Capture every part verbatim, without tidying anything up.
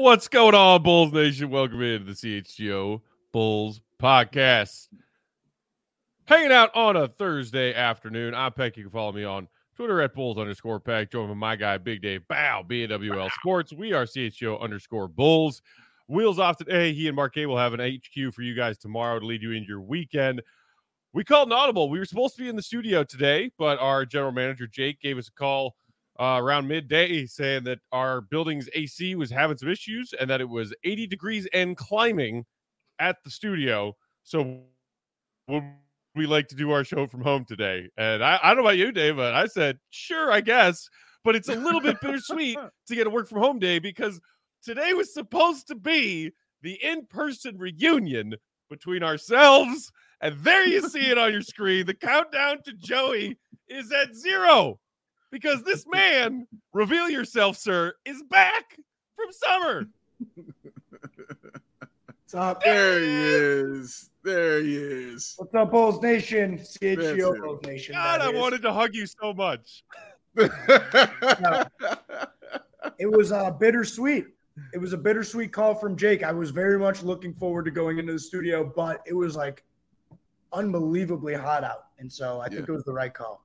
What's going on, Bulls Nation? Welcome into the C H G O Bulls podcast. Hanging out on a Thursday afternoon. I'm Peck. You can follow me on Twitter at Bulls underscore Peck. Join with my guy, Big Dave Bow, B N W L Sports. We are C H G O underscore Bulls. Wheels off today. He and Mark K will have an H Q for you guys tomorrow to lead you into your weekend. We called an audible. We were supposed to be in the studio today, but our general manager, Jake, gave us a call Uh, around midday saying that our building's A C was having some issues and that it was eighty degrees and climbing at the studio. So would we like to do our show from home today? And I, I don't know about you, Dave, but I said, sure, I guess. But it's a little bit bittersweet to get a work from home day because today was supposed to be the in-person reunion between ourselves. And there you see it on your screen. The countdown to Joey is at zero. Because this man, reveal yourself, sir, is back from summer. What's up? There he is. There he is. What's up, Bulls Nation? C H G O Bulls Nation. God, I is. wanted to hug you so much. No. It was uh, bittersweet. It was a bittersweet call from Jake. I was very much looking forward to going into the studio, but it was like unbelievably hot out. And so I yeah. think it was the right call.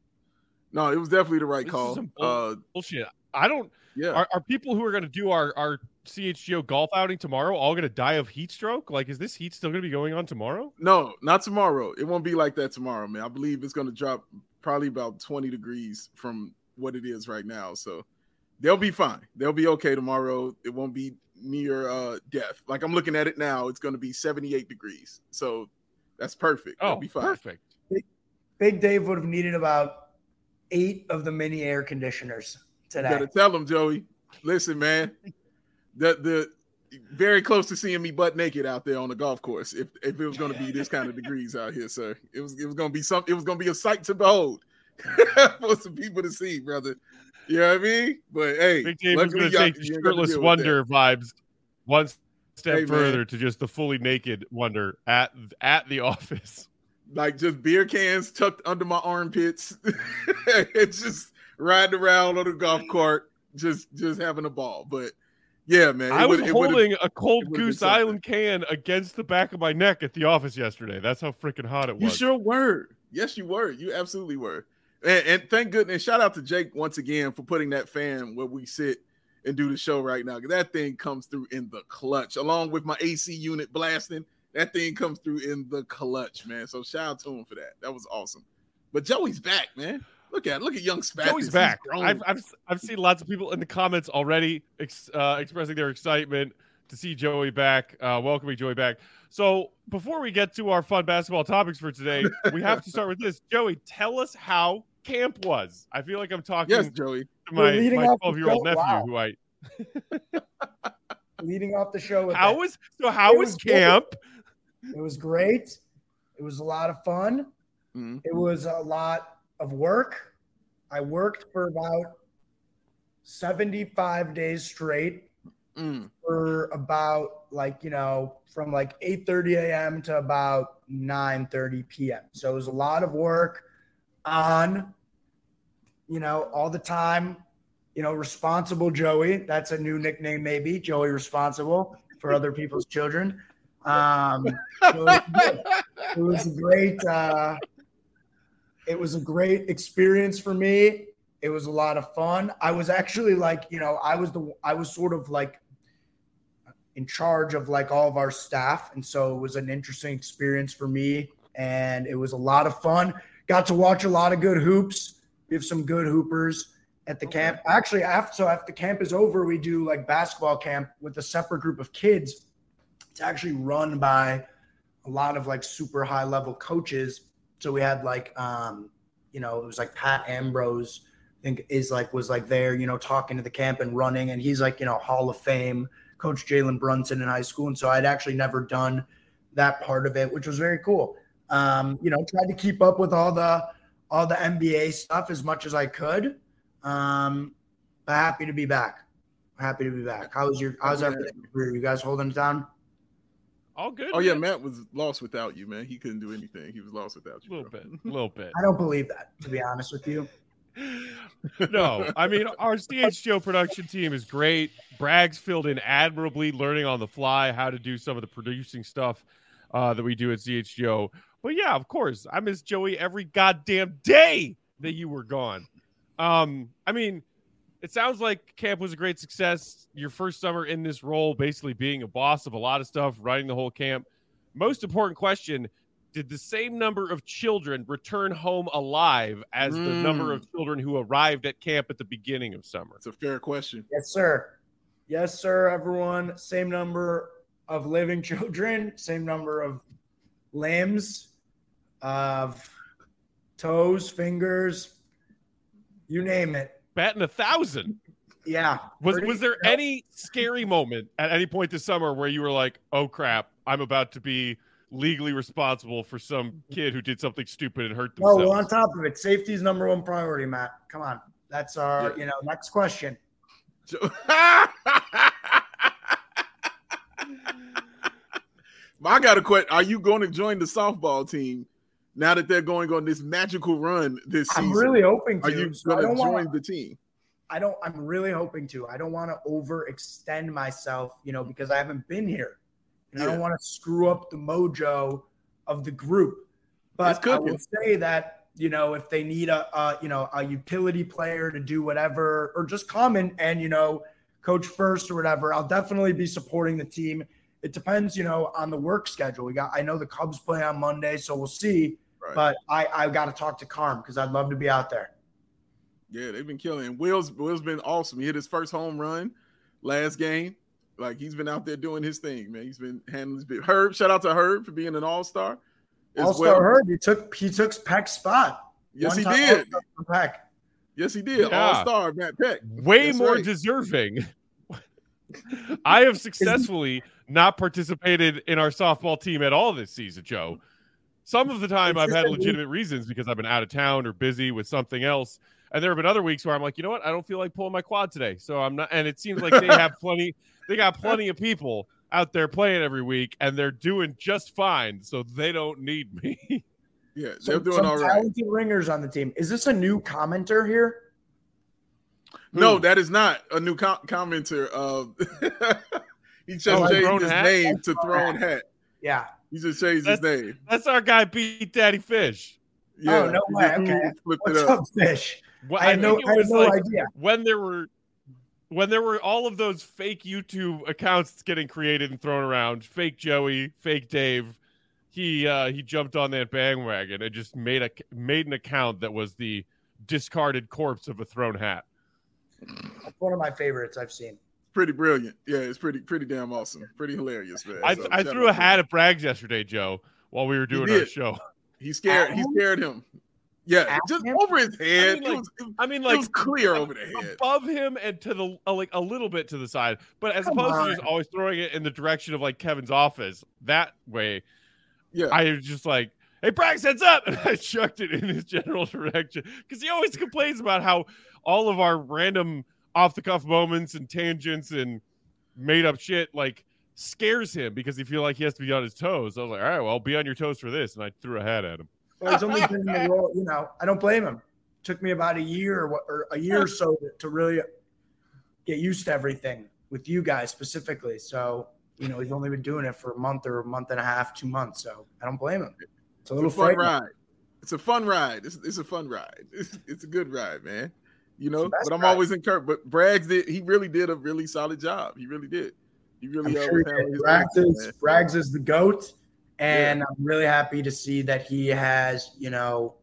No, it was definitely the right this call. Is some bull- uh, bullshit. I don't. Yeah. Are, are people who are going to do our, our C H G O golf outing tomorrow all going to die of heat stroke? Like, is this heat still going to be going on tomorrow? No, not tomorrow. It won't be like that tomorrow, man. I believe it's going to drop probably about twenty degrees from what it is right now. So they'll be fine. They'll be okay tomorrow. It won't be near uh, death. Like I'm looking at it now, it's going to be seventy-eight degrees. So that's perfect. Oh, They'll be fine. Perfect. Big, Big Dave would have needed about eight of the mini air conditioners today. You gotta tell them, Joey. Listen, man. The the very close to seeing me butt naked out there on the golf course. If if it was gonna be this kind of degrees out here, sir, it was it was gonna be some. It was gonna be a sight to behold for some people to see, brother. You know what I mean? But hey, Big Dave was gonna take the shirtless wonder vibes one step hey, further man. to just the fully naked wonder at at the office. Like just beer cans tucked under my armpits. It's just riding around on the golf cart, just just having a ball. But yeah, man. I was holding a Cold Goose Island can against the back of my neck at the office yesterday. That's how freaking hot it was. You sure were. Yes, you were. You absolutely were. And, and thank goodness. Shout out to Jake once again for putting that fan where we sit and do the show right now. That thing comes through in the clutch, along with my A C unit blasting. That thing comes through in the clutch, man. So shout out to him for that. That was awesome. But Joey's back, man. Look at look at young Spathis. Joey's back. I've, I've I've seen lots of people in the comments already ex, uh, expressing their excitement to see Joey back, uh, welcoming Joey back. So before we get to our fun basketball topics for today, we have to start with this. Joey, tell us how camp was. I feel like I'm talking yes, Joey. to my my twelve-year-old nephew wow. who I leading off the show. With how that. was so? How was, was camp? Good. It was great. It was a lot of fun. Mm-hmm. It was a lot of work. I worked for about seventy-five days straight mm. for about like, you know, from like eight thirty a.m. to about nine thirty p.m. So it was a lot of work on, you know, all the time, you know, responsible Joey. That's a new nickname, maybe. Joey Responsible for other people's children. Um, it was, it was a great, uh, it was a great experience for me. It was a lot of fun. I was actually like, you know, I was the, I was sort of like in charge of like all of our staff. And so it was an interesting experience for me and it was a lot of fun. Got to watch a lot of good hoops. We have some good hoopers at the okay. camp. Actually, after, so after the camp is over, we do like basketball camp with a separate group of kids. It's actually run by a lot of like super high level coaches. So we had like, um, you know, it was like Pat Ambrose, I think is like, was like there, you know, talking to the camp and running. And he's like, you know, Hall of Fame coach Jalen Brunson in high school. And so I'd actually never done that part of it, which was very cool. Um, you know, tried to keep up with all the, all the N B A stuff as much as I could. Um, but happy to be back. Happy to be back. How was your, how's everything? Were you guys holding it down? All good. Oh, man. yeah, Matt was lost without you, man. He couldn't do anything. He was lost without you. A little bro. bit. A little bit. I don't believe that, to be honest with you. No, I mean, our C H G O production team is great. Braggs filled in admirably, learning on the fly how to do some of the producing stuff uh, that we do at C H G O. But yeah, of course, I miss Joey every goddamn day that you were gone. Um, I mean, it sounds like camp was a great success. Your first summer in this role, basically being a boss of a lot of stuff, running the whole camp. Most important question, did the same number of children return home alive as mm. the number of children who arrived at camp at the beginning of summer? It's a fair question. Yes, sir. Yes, sir, everyone. Same number of living children, same number of limbs, of toes, fingers, you name it. Batting a thousand. Yeah. Was was there cool. any scary moment at any point this summer where you were like, oh crap, I'm about to be legally responsible for some kid who did something stupid and hurt themselves? No, we're on top of it. Safety is number one priority, Matt. Come on. That's our, yeah. you know, next question. I got a question. Are you going to join the softball team now that they're going on this magical run this season? I'm really hoping to. Are you so going to join wanna, the team? I don't. I'm really hoping to. I don't want to overextend myself, you know, because I haven't been here, and yeah. I don't want to screw up the mojo of the group. But I will say that, you know, if they need a, a you know a utility player to do whatever, or just come in and you know coach first or whatever, I'll definitely be supporting the team. It depends, you know, on the work schedule. We got. I know the Cubs play on Monday, so we'll see. Right. But I I got to talk to Carm because I'd love to be out there. Yeah, they've been killing. And Will's Will's been awesome. He hit his first home run last game. Like he's been out there doing his thing, man. He's been handling his bit. Herb, shout out to Herb for being an all-star. All-star well. Herb, he took he took Peck's spot. Yes, he did. Peck. Yes, he did. Yeah. All-star Matt Peck. Way That's more right. deserving. I have successfully not participated in our softball team at all this season, Joe. Some of the time I've had legitimate reasons because I've been out of town or busy with something else. And there have been other weeks where I'm like, you know what? I don't feel like pulling my quad today. So I'm not. And it seems like they have plenty. They got plenty of people out there playing every week and they're doing just fine. So they don't need me. Yeah, they're some, doing some all right. Talented ringers on the team. Is this a new commenter here? No, that is not a new com- commenter. Uh, he just Oh, changed Throne his Hat? name to Throne Hat. Yeah. He just changed That's, his name. that's our guy, Beat Daddy Fish. Yeah, oh, no he way. just Okay. flipped What's it up. up, Fish? Well, I had no, think it I had was no like idea. when there were when there were all of those fake YouTube accounts getting created and thrown around, fake Joey, fake Dave. He uh, he jumped on that bandwagon and just made a made an account that was the discarded corpse of a Throne Hat. It's one of my favorites I've seen. Pretty brilliant. Yeah, it's pretty pretty damn awesome. Pretty hilarious, man. I, So, I shout threw a out to hat him. at Braggs yesterday, Joe, while we were doing did. our show. He scared. He scared him. Yeah, At just him? over his head. I mean, like, it was, it, I mean, it like was clear over the head. above him and to the uh, like a little bit to the side, but as Come opposed on. to just always throwing it in the direction of like Kevin's office that way. Yeah, I was just like, "Hey, Braggs, heads up!" and I chucked it in his general direction because he always complains about how all of our random off-the-cuff moments and tangents and made-up shit like scares him because he feels like he has to be on his toes. I was like, "All right, well, be on your toes for this," and I threw a hat at him. Well, he's only been in the role, you know, I don't blame him. It took me about a year or, what, or a year or so to, to really get used to everything with you guys specifically. So, you know, he's only been doing it for a month or a month and a half, two months. So I don't blame him. It's a little it's a fun frightening. ride. It's a fun ride. It's, it's a fun ride. It's, it's a good ride, man. You know, It's the best but I'm ride. always encouraged. But Braggs did. He really did a really solid job. He really did. He really. I'm uh, sure was handling his Braggs business, is, man. Braggs is the GOAT. And yeah. I'm really happy to see that he has, you know,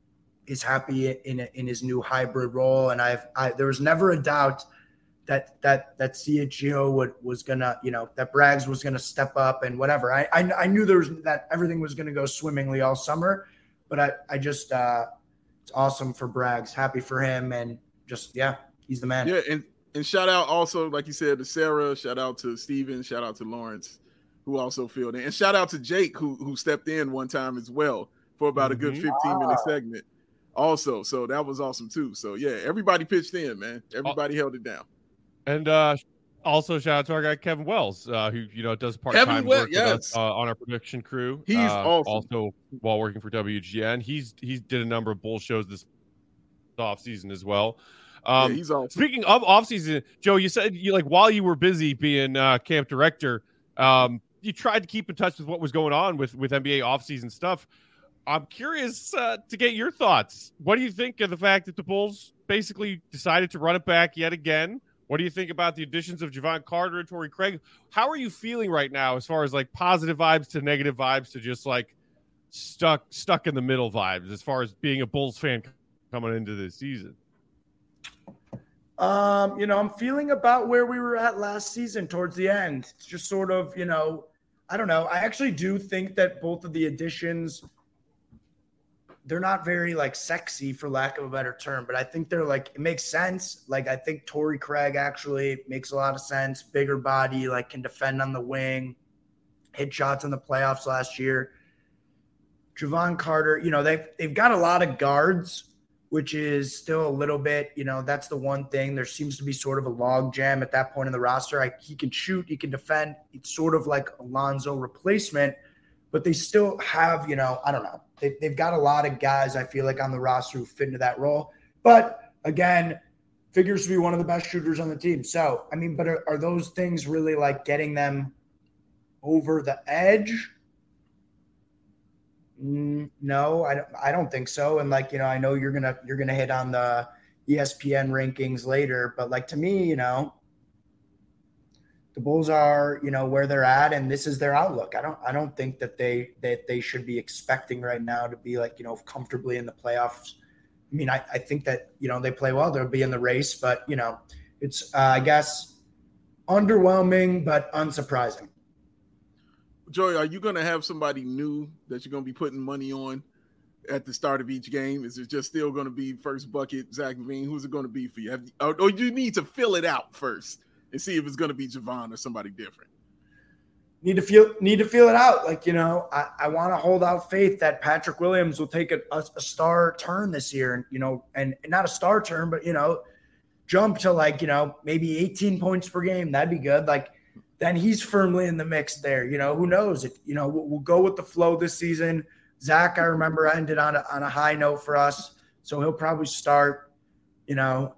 is happy in in his new hybrid role. And I've I, there was never a doubt that that that C H G O would was gonna, you know, that Braggs was gonna step up and whatever. I I, I knew there was that everything was gonna go swimmingly all summer, but I I just uh, it's awesome for Braggs. Happy for him, and just yeah, he's the man. Yeah, and and shout out also, like you said, to Sarah. Shout out to Steven. Shout out to Lawrence, who also filled in, and shout out to Jake, who who stepped in one time as well for about mm-hmm. a good fifteen minute wow. segment. Also, so that was awesome too. So yeah, everybody pitched in, man. Everybody oh. held it down. And uh, also shout out to our guy Kevin Wells, uh, who you know does part time Well- work yes. with us uh, on our production crew. He's uh, awesome. Also while working for W G N, he's he's did a number of bull shows this offseason as well. Um, yeah, he's awesome. Speaking of offseason, Joe, you said you like while you were busy being uh, camp director, um, you tried to keep in touch with what was going on with, with N B A offseason stuff. I'm curious uh, to get your thoughts. What do you think of the fact that the Bulls basically decided to run it back yet again? What do you think about the additions of Jevon Carter and Torrey Craig? How are you feeling right now as far as like positive vibes to negative vibes to just like stuck stuck in the middle vibes as far as being a Bulls fan coming into this season? Um, you know, I'm feeling about where we were at last season towards the end. It's just sort of, you know, I don't know. I actually do think that both of the additions, they're not very like sexy for lack of a better term, but I think they're like, it makes sense. Like, I think Torrey Craig actually makes a lot of sense. Bigger body, like can defend on the wing, hit shots in the playoffs last year. Jevon Carter, you know, they've, they've got a lot of guards, which is still a little bit, you know, that's the one thing. There seems to be sort of a log jam at that point in the roster. I, he can shoot, he can defend. It's sort of like a Lonzo replacement, but they still have, you know, I don't know. They, they've got a lot of guys, I feel like, on the roster who fit into that role. But, again, figures to be one of the best shooters on the team. So, I mean, but are, are those things really, like, getting them over the edge? No, I don't, I don't think so. And like, you know, I know you're going to, you're going to hit on the E S P N rankings later, but like to me, you know, the Bulls are, you know, where they're at and this is their outlook. I don't, I don't think that they, that they should be expecting right now to be like, you know, comfortably in the playoffs. I mean, I, I think that, you know, they play well, they'll be in the race, but you know, it's, uh, I guess, underwhelming, but unsurprising. Joey, are you going to have somebody new that you're going to be putting money on at the start of each game? Is it just still going to be first bucket, Zach LaVine? Who's it going to be for you? Have you or, or you need to fill it out first and see if it's going to be Jevon or somebody different? Need to feel need to feel it out. Like, you know, I, I want to hold out faith that Patrick Williams will take a, a, a star turn this year, and you know, and not a star turn, but you know, jump to like, you know, maybe eighteen points per game. That'd be good. Like, then he's firmly in the mix there. You know, who knows? If, you know, we'll, we'll go with the flow this season. Zach, I remember, ended on a, on a high note for us, so he'll probably start. You know,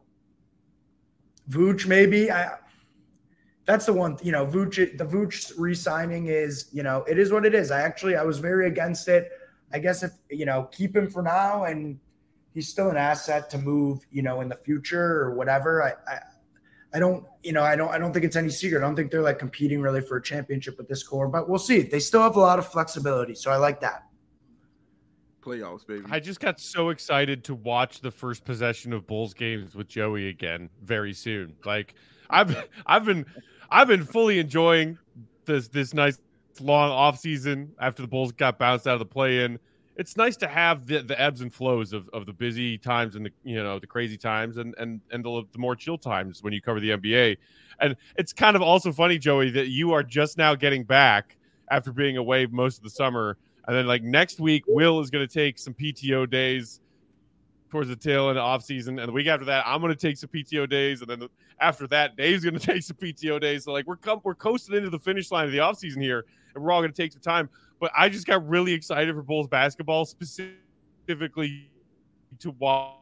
Vooch maybe. I, that's the one. You know, Vooch. The Vooch re-signing is, you know, it is what it is. I actually I was very against it. I guess if you know, keep him for now, and he's still an asset to move. You know, in the future or whatever. I. I I don't, you know, I don't, I don't think it's any secret. I don't think they're like competing really for a championship with this core, but we'll see. They still have a lot of flexibility, so I like that. Playoffs, baby. I just got so excited to watch the first possession of Bulls games with Joey again very soon. Like I've, I've been, I've been fully enjoying this this nice long off season after the Bulls got bounced out of the play-in. It's nice to have the, the ebbs and flows of, of the busy times and the, you know, the crazy times and and and the, the more chill times when you cover the N B A. And it's kind of also funny, Joey, that you are just now getting back after being away most of the summer. And then like next week, Will is going to take some P T O days towards the tail end of off season. And the week after that, I'm going to take some P T O days. And then after that, Dave's going to take some P T O days. So like we're com- we're coasting into the finish line of the off season here, and we're all going to take some time. But I just got really excited for Bulls basketball, specifically to watch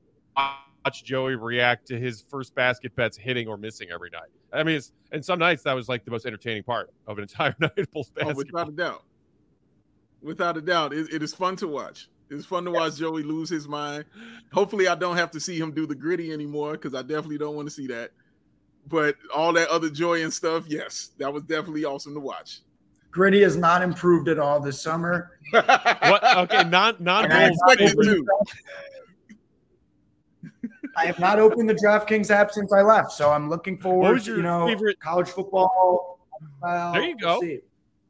Joey react to his first basket bets hitting or missing every night. I mean, it's, and some nights that was like the most entertaining part of an entire night of Bulls basketball. Oh, without a doubt. Without a doubt. It, it is fun to watch. It's fun to watch Joey lose his mind. Hopefully I don't have to see him do the gritty anymore, because I definitely don't want to see that. But all that other joy and stuff, yes, that was definitely awesome to watch. Gritty has not improved at all this summer. What? Okay, non non I expected to. I have not opened the DraftKings app since I left, so I'm looking forward What was to, your you know, favorite- college football. Well, There you go. we'll see.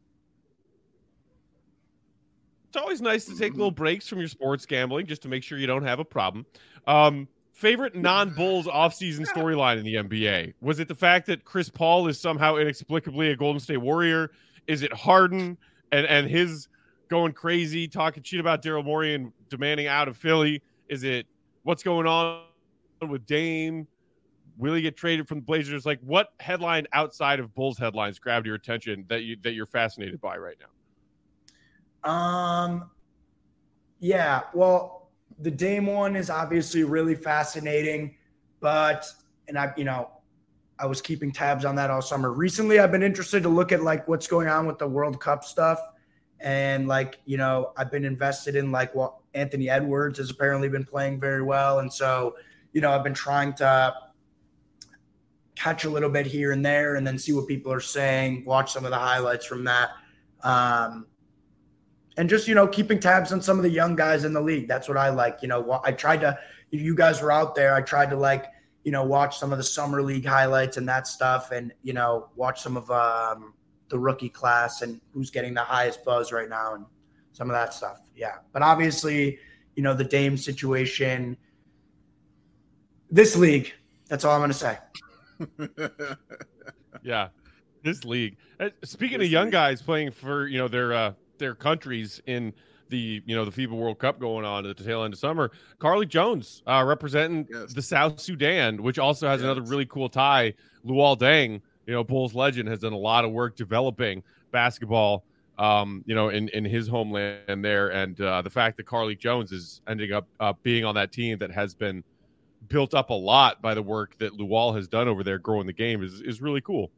It's always nice to take little breaks from your sports gambling just to make sure you don't have a problem. Um, favorite non-Bulls offseason storyline in the N B A? Was it the fact that Chris Paul is somehow inexplicably a Golden State Warrior? Is it Harden and, and his going crazy, talking shit about Daryl Morey and demanding out of Philly? Is it what's going on with Dame? Will he get traded from the Blazers? Like, what headline outside of Bulls headlines grabbed your attention that you that you're fascinated by right now? Um, yeah, well, the Dame one is obviously really fascinating, but, and I, you know, I was keeping tabs on that all summer. Recently, I've been interested to look at like what's going on with the World Cup stuff. And like, you know, I've been invested in like what Anthony Edwards has apparently been playing very well. And so, you know, I've been trying to catch a little bit here and there and then see what people are saying, watch some of the highlights from that. Um, and just, you know, keeping tabs on some of the young guys in the league. That's what I like. You know, I tried to, if you guys were out there, I tried to like, you know, watch some of the summer league highlights and that stuff and, you know, watch some of um, the rookie class and who's getting the highest buzz right now and some of that stuff. Yeah. But obviously, you know, the Dame situation, this league, that's all I'm going to say. Yeah. This league. Uh, speaking This of young league. guys playing for, you know, their, uh, their countries in the, you know, the FIBA World Cup going on at the tail end of summer, Carly Jones uh, representing Yes. the South Sudan, which also has Yes. another really cool tie. Luol Deng, you know, Bulls legend, has done a lot of work developing basketball, um, you know, in, in his homeland there. And uh, the fact that Carly Jones is ending up uh, being on that team that has been built up a lot by the work that Luol has done over there growing the game is, is really cool.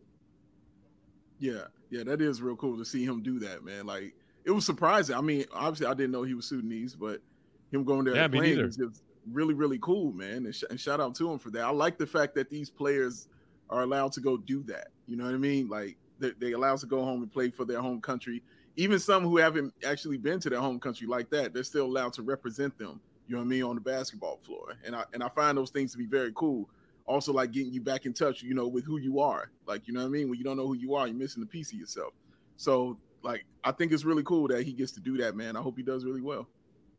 Yeah, yeah, that is real cool to see him do that, man. Like, it was surprising. I mean, obviously, I didn't know he was Sudanese, but him going there Yeah, and me playing neither. is just really, really cool, man. And, sh- and shout out to him for that. I like the fact that these players are allowed to go do that. You know what I mean? Like, they, they allowed to go home and play for their home country. Even some who haven't actually been to their home country like that, they're still allowed to represent them. You know what I mean, on the basketball floor. And I and I find those things to be very cool. Also, like getting you back in touch, you know, with who you are. Like, you know what I mean? When you don't know who you are, you're missing a piece of yourself. So, like, I think it's really cool that he gets to do that, man. I hope he does really well.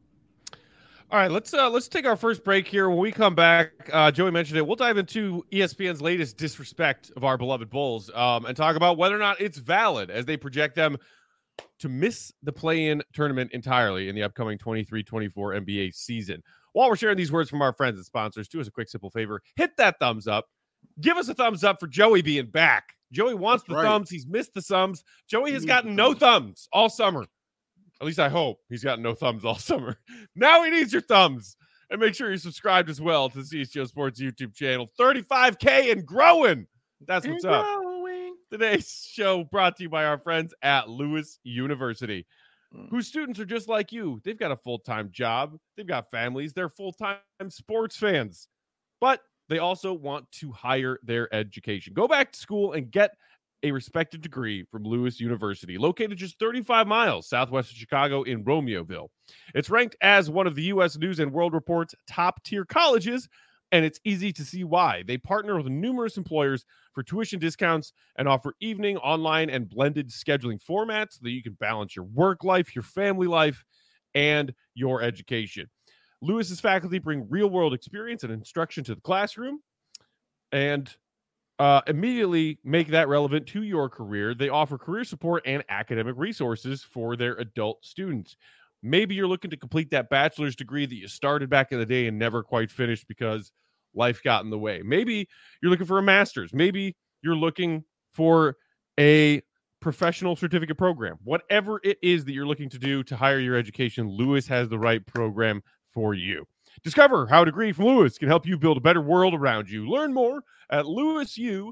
All right, let's uh, let's take our first break here. When we come back, uh, Joey mentioned it. We'll dive into E S P N's latest disrespect of our beloved Bulls um, and talk about whether or not it's valid as they project them to miss the play-in tournament entirely in the upcoming twenty-three twenty-four N B A season. While we're sharing these words from our friends and sponsors, do us a quick, simple favor. Hit that thumbs up. Give us a thumbs up for Joey being back. Joey wants That's the right. thumbs. He's missed the thumbs. Joey He has needs gotten the no thumbs. thumbs all summer. At least I hope he's gotten no thumbs all summer. Now he needs your thumbs. And make sure you're subscribed as well to the C H G O Sports YouTube channel. thirty-five K and growing. That's what's up. Today's show brought to you by our friends at Lewis University, Mm. whose students are just like you. They've got a full-time job. They've got families. They're full-time sports fans. But they also want to hire their education. Go back to school and get a respected degree from Lewis University, located just thirty-five miles southwest of Chicago in Romeoville. It's ranked as one of the U S News and World Report's top-tier colleges, and it's easy to see why. They partner with numerous employers for tuition discounts and offer evening, online, and blended scheduling formats so that you can balance your work life, your family life, and your education. Lewis's faculty bring real-world experience and instruction to the classroom and uh, immediately make that relevant to your career. They offer career support and academic resources for their adult students. Maybe you're looking to complete that bachelor's degree that you started back in the day and never quite finished because life got in the way. Maybe you're looking for a master's. Maybe you're looking for a professional certificate program. Whatever it is that you're looking to do to hire your education, Lewis has the right program for you. Discover how a degree from Lewis can help you build a better world around you. Learn more at lewisu.edu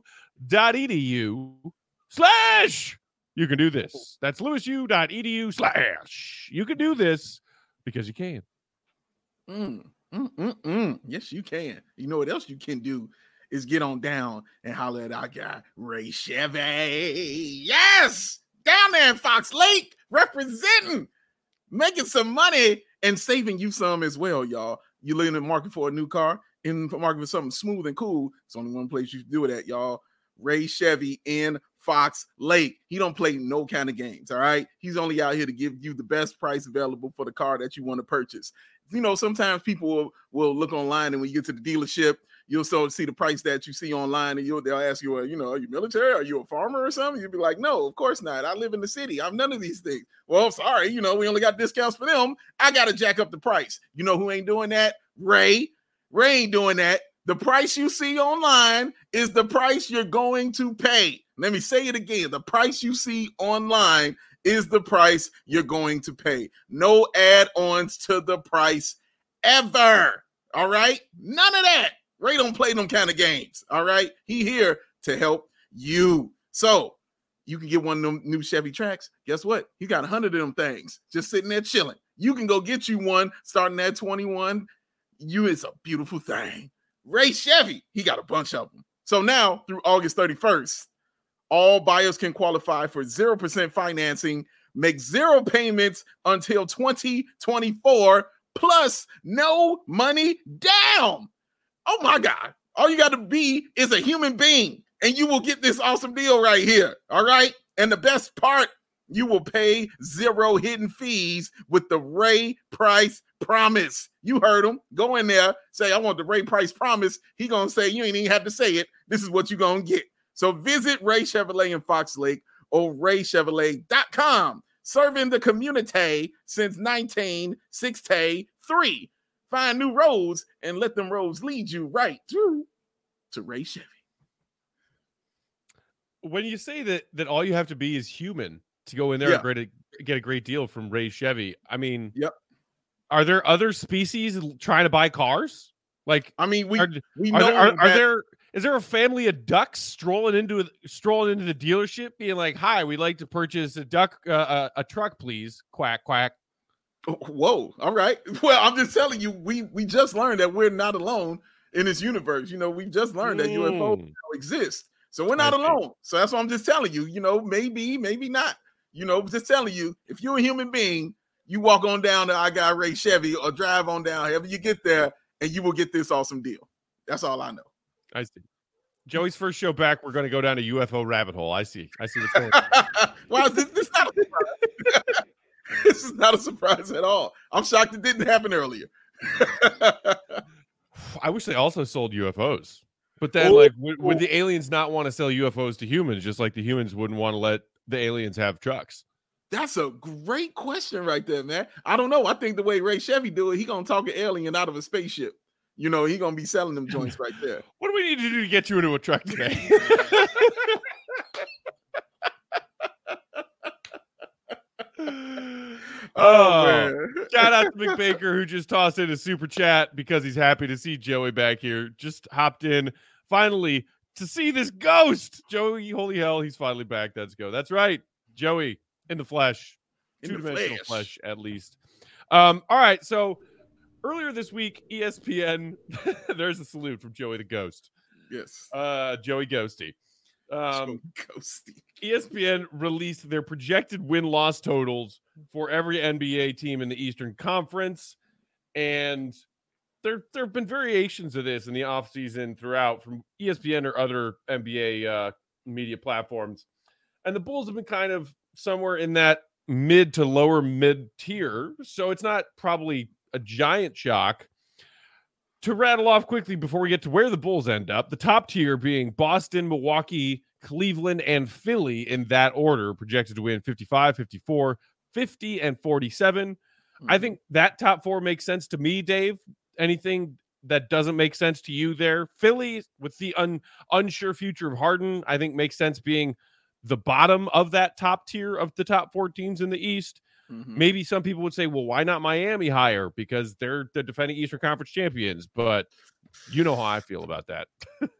slash you can do this. That's lewisu.edu slash you can do this because you can. Mm, mm, mm, mm. Yes, you can. You know what else you can do is get on down and holler at our guy, Ray Chevy. Yes! Down there in Fox Lake, representing, making some money and saving you some as well, y'all. You're in the market for a new car, in the market for something smooth and cool. It's only one place you can do it at, y'all. Ray Chevy in Fox Lake. He don't play no kind of games, all right? He's only out here to give you the best price available for the car that you want to purchase. You know, sometimes people will, will look online, and when you get to the dealership, you'll so see the price that you see online, and you'll they'll ask you, well, you know, are you military? Are you a farmer or something? You'll be like, no, of course not. I live in the city. I'm none of these things. Well, sorry, you know, we only got discounts for them. I got to jack up the price. You know who ain't doing that? Ray. Ray ain't doing that. The price you see online is the price you're going to pay. Let me say it again. The price you see online is the price you're going to pay. No add-ons to the price ever. All right? None of that. Ray don't play them kind of games. All right? He here to help you. So you can get one of them new Chevy Trax. Guess what? He got a hundred of them things just sitting there chilling. You can go get you one starting at twenty-one. You, it's a beautiful thing. Ray Chevy, he got a bunch of them. So now through August thirty-first, all buyers can qualify for zero percent financing, make zero payments until twenty twenty-four, plus no money down. Oh my God. All you got to be is a human being, and you will get this awesome deal right here. All right. And the best part, you will pay zero hidden fees with the Ray Price Promise. You heard him. Go in there, say, I want the Ray Price Promise. He going to say, you ain't even have to say it. This is what you're going to get. So visit Ray Chevrolet in Fox Lake or ray chevrolet dot com. Serving the community since nineteen sixty-three. Find new roads and let them roads lead you right through to Ray Chevy. When you say that that all you have to be is human to go in there Yeah. and great, get a great deal from Ray Chevy, I mean, Yep. Are there other species trying to buy cars? Like, I mean, we are, we are know there, are, are that- there is there a family of ducks strolling into strolling into the dealership, being like, "Hi, we'd like to purchase a duck, uh, a, a truck, please." Quack quack. Whoa. All right. Well, I'm just telling you, we we just learned that we're not alone in this universe. You know, we just learned that U F Os Mm. exist. So we're not I see. alone. So that's what I'm just telling you. You know, maybe, maybe not. You know, just telling you, if you're a human being, you walk on down to I got Ray Chevy or drive on down, however you get there, and you will get this awesome deal. That's all I know. I see. Joey's first show back, we're going to go down a U F O rabbit hole. I see. I see what's going on. Wow, this, this, not a surprise. This is not a surprise at all. I'm shocked it didn't happen earlier. I wish they also sold U F Os. But then, Oh, like, would, would the aliens not want to sell U F Os to humans, just like the humans wouldn't want to let the aliens have trucks? That's a great question right there, man. I don't know. I think the way Ray Chevy do it, he gonna talk an alien out of a spaceship. You know, he gonna be selling them joints right there. What do we need to do to get you into a truck today? Oh, Oh, man. shout out to Mick Baker, who just tossed in a super chat because he's happy to see Joey back here. Just hopped in finally to see this ghost. Joey, holy hell, he's finally back. Let's go. That's right. Joey in the flesh, In the two-dimensional flesh. flesh, at least. Um, all right. So earlier this week, E S P N, there's a salute from Joey the Ghost. Yes. Uh, Joey Ghosty. Um, So ghosty. E S P N released their projected win-loss totals for every N B A team in the Eastern Conference, and there there have been variations of this in the offseason throughout from E S P N or other N B A uh, media platforms, and the Bulls have been kind of somewhere in that mid to lower mid tier, so it's not probably a giant shock. To rattle off quickly before we get to where the Bulls end up, the top tier being Boston, Milwaukee, Cleveland, and Philly in that order, projected to win fifty-five, fifty-four, fifty, and forty-seven. Mm-hmm. I think that top four makes sense to me, Dave. Anything that doesn't make sense to you there? Philly, with the un, unsure future of Harden, I think makes sense being the bottom of that top tier of the top four teams in the East. Mhm. Maybe some people would say, well, why not Miami higher? Because they're the defending Eastern Conference champions. But you know how I feel about that.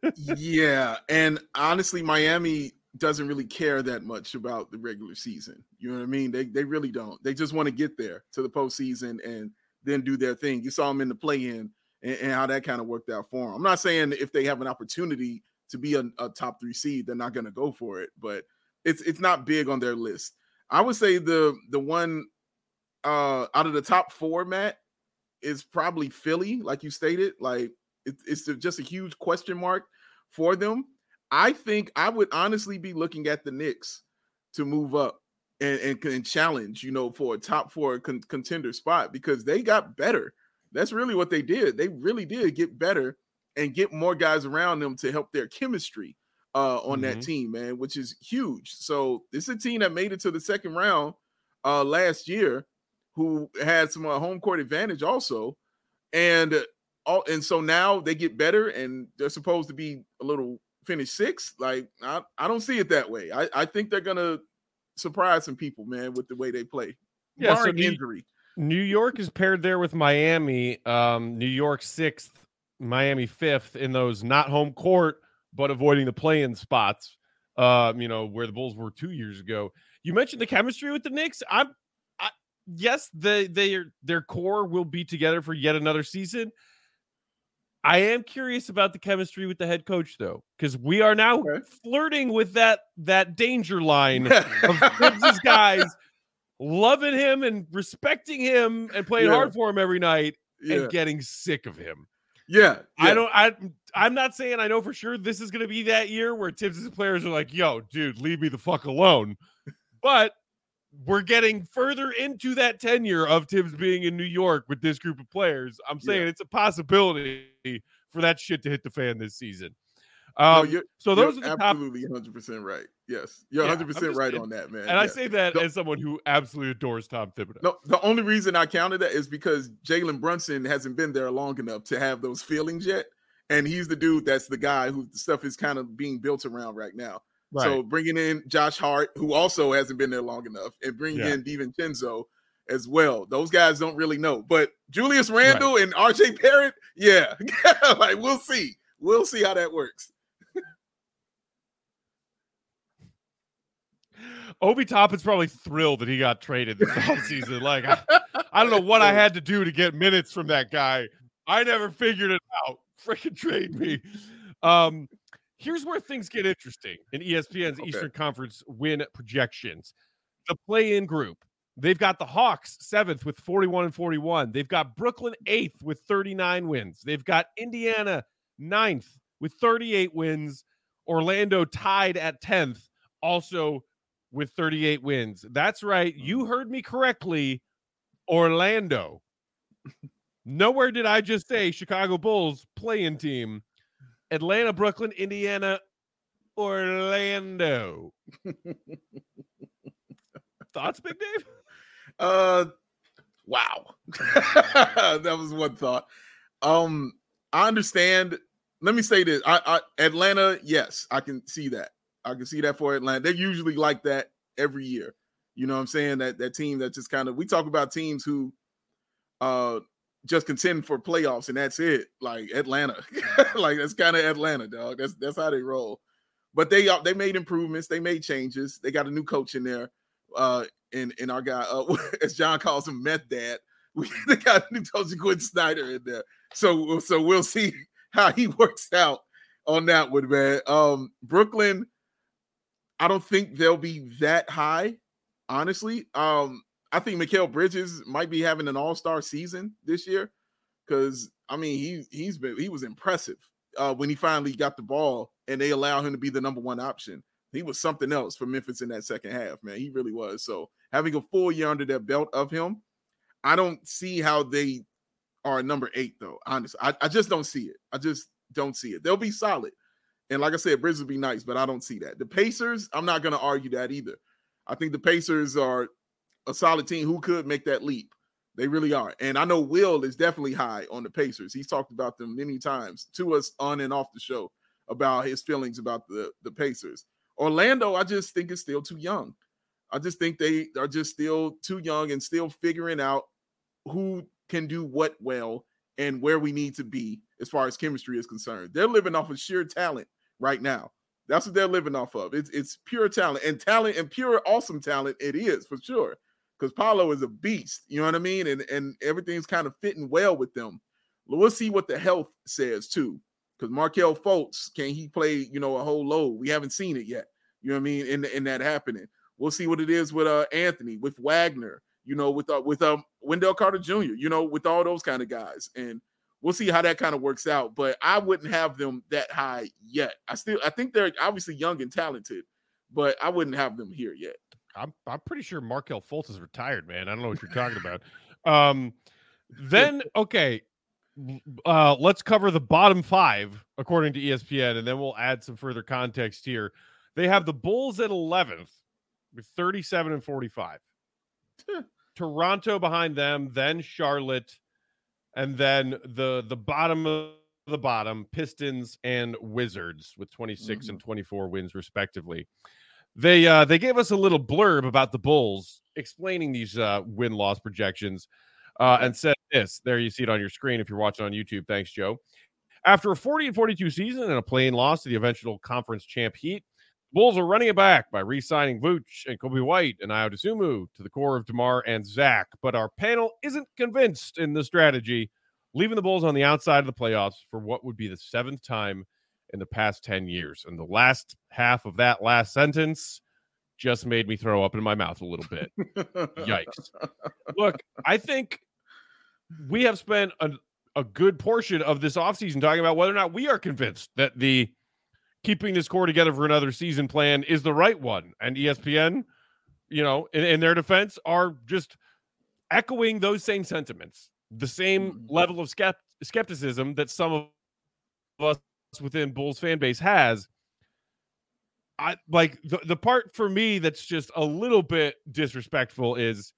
Yeah, and honestly, Miami doesn't really care that much about the regular season. You know what I mean? They they really don't. They just want to get there to the postseason and then do their thing. You saw them in the play-in and, and how that kind of worked out for them. I'm not saying if they have an opportunity to be a, a top three seed, they're not going to go for it, but it's it's not big on their list. I would say the the one uh, out of the top four, Matt, is probably Philly, like you stated. Like it, it's just a huge question mark for them. I think I would honestly be looking at the Knicks to move up and, and, and challenge, you know, for a top four con- contender spot because they got better. That's really what they did. They really did get better and get more guys around them to help their chemistry uh, on Mhm. that team, man, which is huge. So this is a team that made it to the second round uh, last year, who had some uh, home court advantage also, and uh, all and so now they get better and they're supposed to be a little finish sixth. Like I, I don't see it that way. I, I think they're gonna surprise some people, man, with the way they play, Yeah, so barring do you- injury. New York is paired there with Miami. Um, New York sixth, Miami fifth in those not home court, but avoiding the play-in spots. Uh, you know, where the Bulls were two years ago. You mentioned the chemistry with the Knicks. I'm, I, yes, they they their core will be together for yet another season. I am curious about the chemistry with the head coach, though, because we are now okay. flirting with that that danger line of Tibbs' guys loving him and respecting him and playing yeah. hard for him every night yeah. and getting sick of him. Yeah, yeah. I don't. I. I'm not saying I know for sure this is going to be that year where Tibbs' players are like, "Yo, dude, leave me the fuck alone." But we're getting further into that tenure of Tibbs being in New York with this group of players. I'm saying yeah. it's a possibility for that shit to hit the fan this season. Um, no, you're, so those you're are the absolutely top... one hundred percent right. Yes, you're yeah, one hundred percent right on that, man. And yeah. I say that no, as someone who absolutely adores Tom Thibodeau. No, the only reason I counted that is because Jalen Brunson hasn't been there long enough to have those feelings yet. And he's the dude that's the guy who the stuff is kind of being built around right now. Right. So bringing in Josh Hart, who also hasn't been there long enough, and bringing yeah. in DiVincenzo as well. Those guys don't really know. But Julius Randle right. and R J Barrett, yeah. like we'll see. We'll see how that works. Obi Toppin's probably thrilled that he got traded this offseason. Like, I, I don't know what I had to do to get minutes from that guy. I never figured it out. Freaking trade me. Um, here's where things get interesting in E S P N's okay. Eastern Conference win projections. The play-in group. They've got the Hawks seventh with forty-one and forty-one. They've got Brooklyn eighth with thirty-nine wins. They've got Indiana ninth with thirty-eight wins. Orlando tied at tenth, also with thirty-eight wins. That's right. You heard me correctly. Orlando. Nowhere did I just say Chicago Bulls play-in team. Atlanta, Brooklyn, Indiana, Orlando. Thoughts, Big Dave? Uh, wow. That was one thought. Um, I understand. Let me say this. I, I Atlanta, yes, I can see that. I can see that for Atlanta. They're usually like that every year. You know what I'm saying? That that team that just kind of, we talk about teams who uh just contend for playoffs and that's it. Like Atlanta. Like that's kind of Atlanta, dog. That's that's how they roll. But they they made improvements, they made changes. They got a new coach in there. Uh and, and our guy, uh, as John calls him, Meth Dad. We they got a new coach, Quinn Snyder, in there. So so we'll see how he works out on that one, man. Um, Brooklyn, I don't think they'll be that high, honestly. Um, I think Mikal Bridges might be having an all-star season this year because, I mean, he, he's been he was impressive uh, when he finally got the ball and they allowed him to be the number one option. He was something else for Memphis in that second half, man. He really was. So having a full year under their belt of him, I don't see how they are number eight, though, honestly. I, I just don't see it. I just don't see it. They'll be solid. And like I said, Bridges will be nice, but I don't see that. The Pacers, I'm not going to argue that either. I think the Pacers are a solid team who could make that leap. They really are. And I know Will is definitely high on the Pacers. He's talked about them many times to us on and off the show about his feelings about the, the Pacers. Orlando, I just think is still too young. I just think they are just still too young and still figuring out who can do what well and where we need to be as far as chemistry is concerned. They're living off of sheer talent right now. That's what they're living off of. It's it's pure talent and talent and pure awesome talent. It is for sure. Because Paolo is a beast, you know what I mean? And, and everything's kind of fitting well with them. We'll see what the health says, too. Because Markelle Fultz, can he play, you know, a whole load? We haven't seen it yet, you know what I mean, in, in that happening. We'll see what it is with uh, Anthony, with Wagner, you know, with uh, with um, Wendell Carter Junior, you know, with all those kind of guys. And we'll see how that kind of works out. But I wouldn't have them that high yet. I still, I think they're obviously young and talented, but I wouldn't have them here yet. I'm I'm pretty sure Markelle Fultz is retired, man. I don't know what you're talking about. Um, then okay, uh, let's cover the bottom five according to E S P N, and then we'll add some further context here. They have the Bulls at eleventh with thirty-seven and forty-five. Toronto behind them, then Charlotte, and then the the bottom of the bottom, Pistons and Wizards with twenty-six mm-hmm. and twenty-four wins respectively. They uh, they gave us a little blurb about the Bulls, explaining these uh, win-loss projections. uh, and said this. There you see it on your screen if you're watching on YouTube. Thanks, Joe. After a forty and forty-two season and a plain loss to the eventual conference champ Heat, Bulls are running it back by re-signing Vooch and Kobe White and Ayo Dosunmu to the core of DeMar and Zach. But our panel isn't convinced in the strategy, leaving the Bulls on the outside of the playoffs for what would be the seventh time in the past ten years. And the last half of that last sentence just made me throw up in my mouth a little bit. Yikes. Look, I think we have spent a, a good portion of this offseason talking about whether or not we are convinced that the keeping this core together for another season plan is the right one. And E S P N, you know, in, in their defense, are just echoing those same sentiments, the same mm-hmm. level of skept- skepticism that some of us within Bulls fan base has. I like the, the part for me that's just a little bit disrespectful is,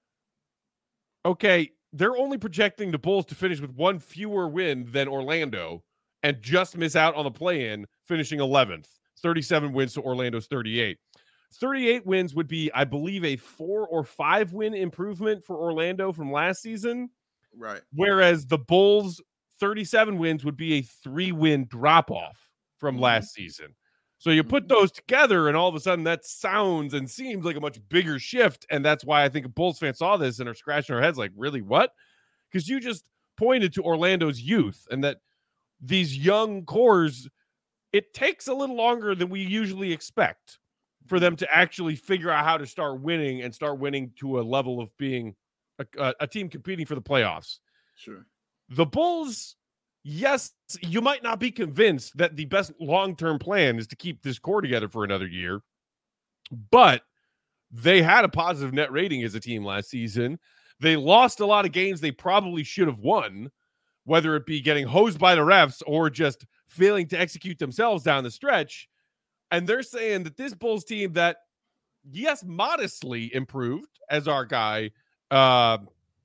okay, they're only projecting the Bulls to finish with one fewer win than Orlando and just miss out on the play-in, finishing eleventh. thirty-seven wins to Orlando's thirty-eight. thirty-eight wins would be, I believe, a four or five win improvement for Orlando from last season. Right. Whereas the Bulls' thirty-seven wins would be a three-win drop-off from mm-hmm. last season. So you put those together, and all of a sudden that sounds and seems like a much bigger shift. And that's why I think Bulls fans saw this and are scratching their heads like, really, what? Because you just pointed to Orlando's youth and that these young cores, it takes a little longer than we usually expect for them to actually figure out how to start winning and start winning to a level of being a, a, a team competing for the playoffs. Sure. The Bulls, yes, you might not be convinced that the best long-term plan is to keep this core together for another year, but they had a positive net rating as a team last season. They lost a lot of games they probably should have won, whether it be getting hosed by the refs or just failing to execute themselves down the stretch. And they're saying that this Bulls team that, yes, modestly improved, as our guy, uh,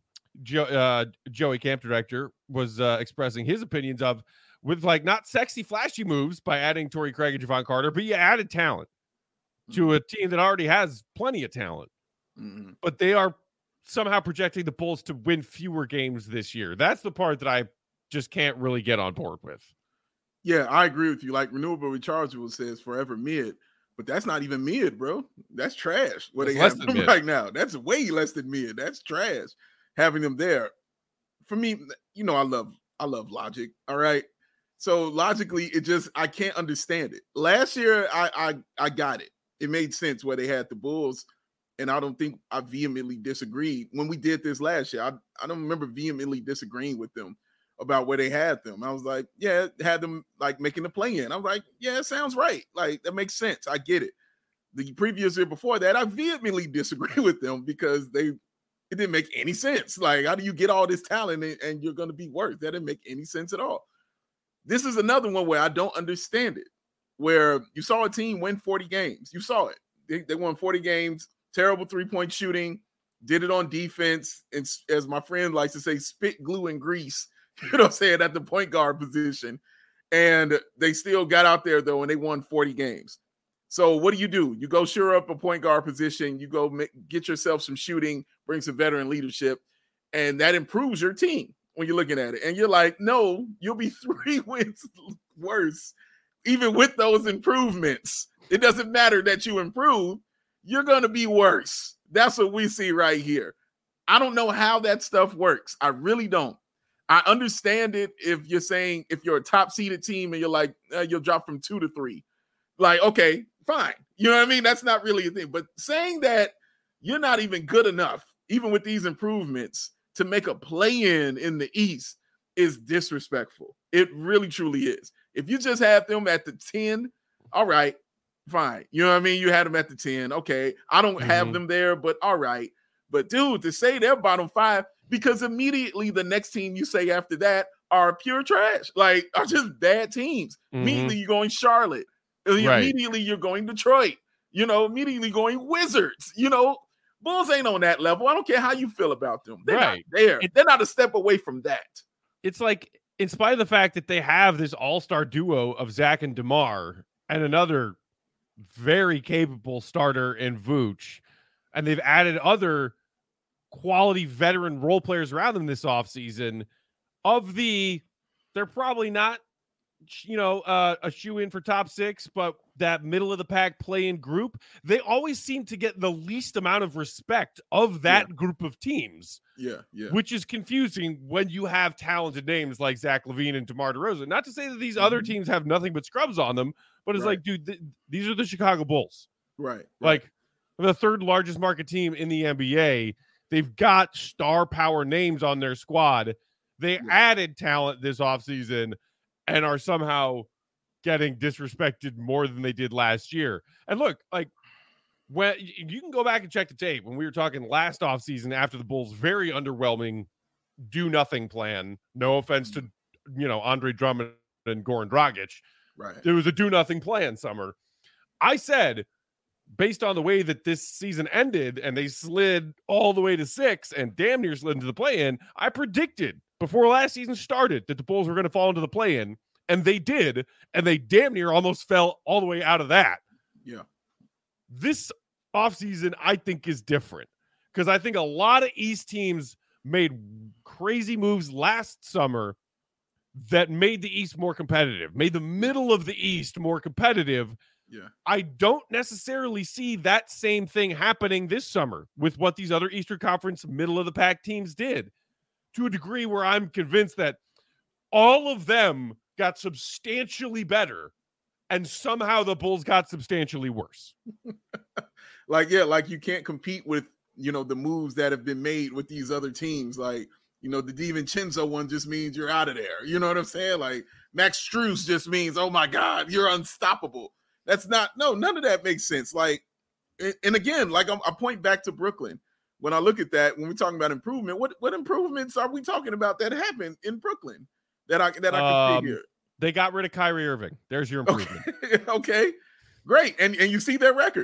Jo- uh, Joey Camp Director was uh, expressing his opinions of, with like not sexy, flashy moves by adding Torrey Craig and Javon Carter, but you added talent mm-hmm. to a team that already has plenty of talent. Mm-hmm. But they are somehow projecting the Bulls to win fewer games this year. That's the part that I just can't really get on board with. Yeah, I agree with you. Like Renewable Rechargeable says, forever mid, but that's not even mid, bro. That's trash. What they have right now. That's way less than mid. That's trash. Having them there, for me, you know, I love, I love logic. All right, so logically, it just I can't understand it. Last year, I, I, I got it. It made sense where they had the Bulls, and I don't think I vehemently disagreed when we did this last year. I, I don't remember vehemently disagreeing with them about where they had them. I was like, yeah, had them like making the play in. I was like, yeah, it sounds right. Like that makes sense. I get it. The previous year before that, I vehemently disagree with them because they. It didn't make any sense. Like, how do you get all this talent and, and you're going to be worse? That didn't make any sense at all. This is another one where I don't understand it, where you saw a team win forty games. You saw it. They, they won forty games, terrible three-point shooting, did it on defense, and as my friend likes to say, spit, glue, and grease, you know what I'm saying, at the point guard position. And they still got out there, though, and they won forty games. So what do you do? You go shore up a point guard position. You go make, get yourself some shooting, bring some veteran leadership, and that improves your team when you're looking at it. And you're like, no, you'll be three wins worse, even with those improvements. It doesn't matter that you improve. You're going to be worse. That's what we see right here. I don't know how that stuff works. I really don't. I understand it if you're saying if you're a top-seeded team and you're like, uh, you'll drop from two to three. Like, okay, fine. You know what I mean? That's not really a thing. But saying that you're not even good enough, even with these improvements, to make a play-in in the East is disrespectful. It really, truly is. If you just have them at the ten, all right, fine. You know what I mean? You had them at the ten. Okay, I don't mm-hmm. have them there, but all right. But, dude, to say they're bottom five, because immediately the next team you say after that are pure trash, like are just bad teams. Mm-hmm. Immediately you're going Charlotte. Right. Immediately you're going Detroit, you know, immediately going Wizards, you know, Bulls ain't on that level. I don't care how you feel about them. They're right. not there. It, They're not a step away from that. It's like, in spite of the fact that they have this all-star duo of Zach and DeMar and another very capable starter in Vooch, and they've added other quality veteran role players around them this offseason. Of the, they're probably not, you know, uh, a shoe in for top six, but that middle of the pack play-in group, they always seem to get the least amount of respect of that Yeah. group of teams. Yeah, yeah. Which is confusing when you have talented names like Zach LaVine and DeMar DeRozan. Not to say that these mm-hmm. other teams have nothing but scrubs on them, but it's right. like, dude, th- these are the Chicago Bulls. Right, right. Like the third largest market team in the N B A. They've got star power names on their squad. They yeah. added talent this offseason and are somehow getting disrespected more than they did last year. And look, like, when you can go back and check the tape when we were talking last offseason after the Bulls' very underwhelming do nothing plan. No offense to, you know, Andre Drummond and Goran Dragic. Right. It was a do nothing plan summer. I said, based on the way that this season ended and they slid all the way to six and damn near slid into the play-in, I predicted before last season started that the Bulls were going to fall into the play-in, and they did, and they damn near almost fell all the way out of that. Yeah. This offseason, I think, is different because I think a lot of East teams made crazy moves last summer that made the East more competitive, made the middle of the East more competitive. Yeah. I don't necessarily see that same thing happening this summer with what these other Eastern Conference middle of the pack teams did, to a degree where I'm convinced that all of them got substantially better and somehow the Bulls got substantially worse. Like, yeah, like you can't compete with, you know, the moves that have been made with these other teams. Like, you know, the DiVincenzo one just means you're out of there. You know what I'm saying? Like Max Strus just means, oh my God, you're unstoppable. That's not, no, none of that makes sense. Like, and again, like I'm, I point back to Brooklyn. When I look at that, when we're talking about improvement, what, what improvements are we talking about that happened in Brooklyn that I that I can um, see here? They got rid of Kyrie Irving. There's your improvement. Okay, okay. Great. And and you see their record.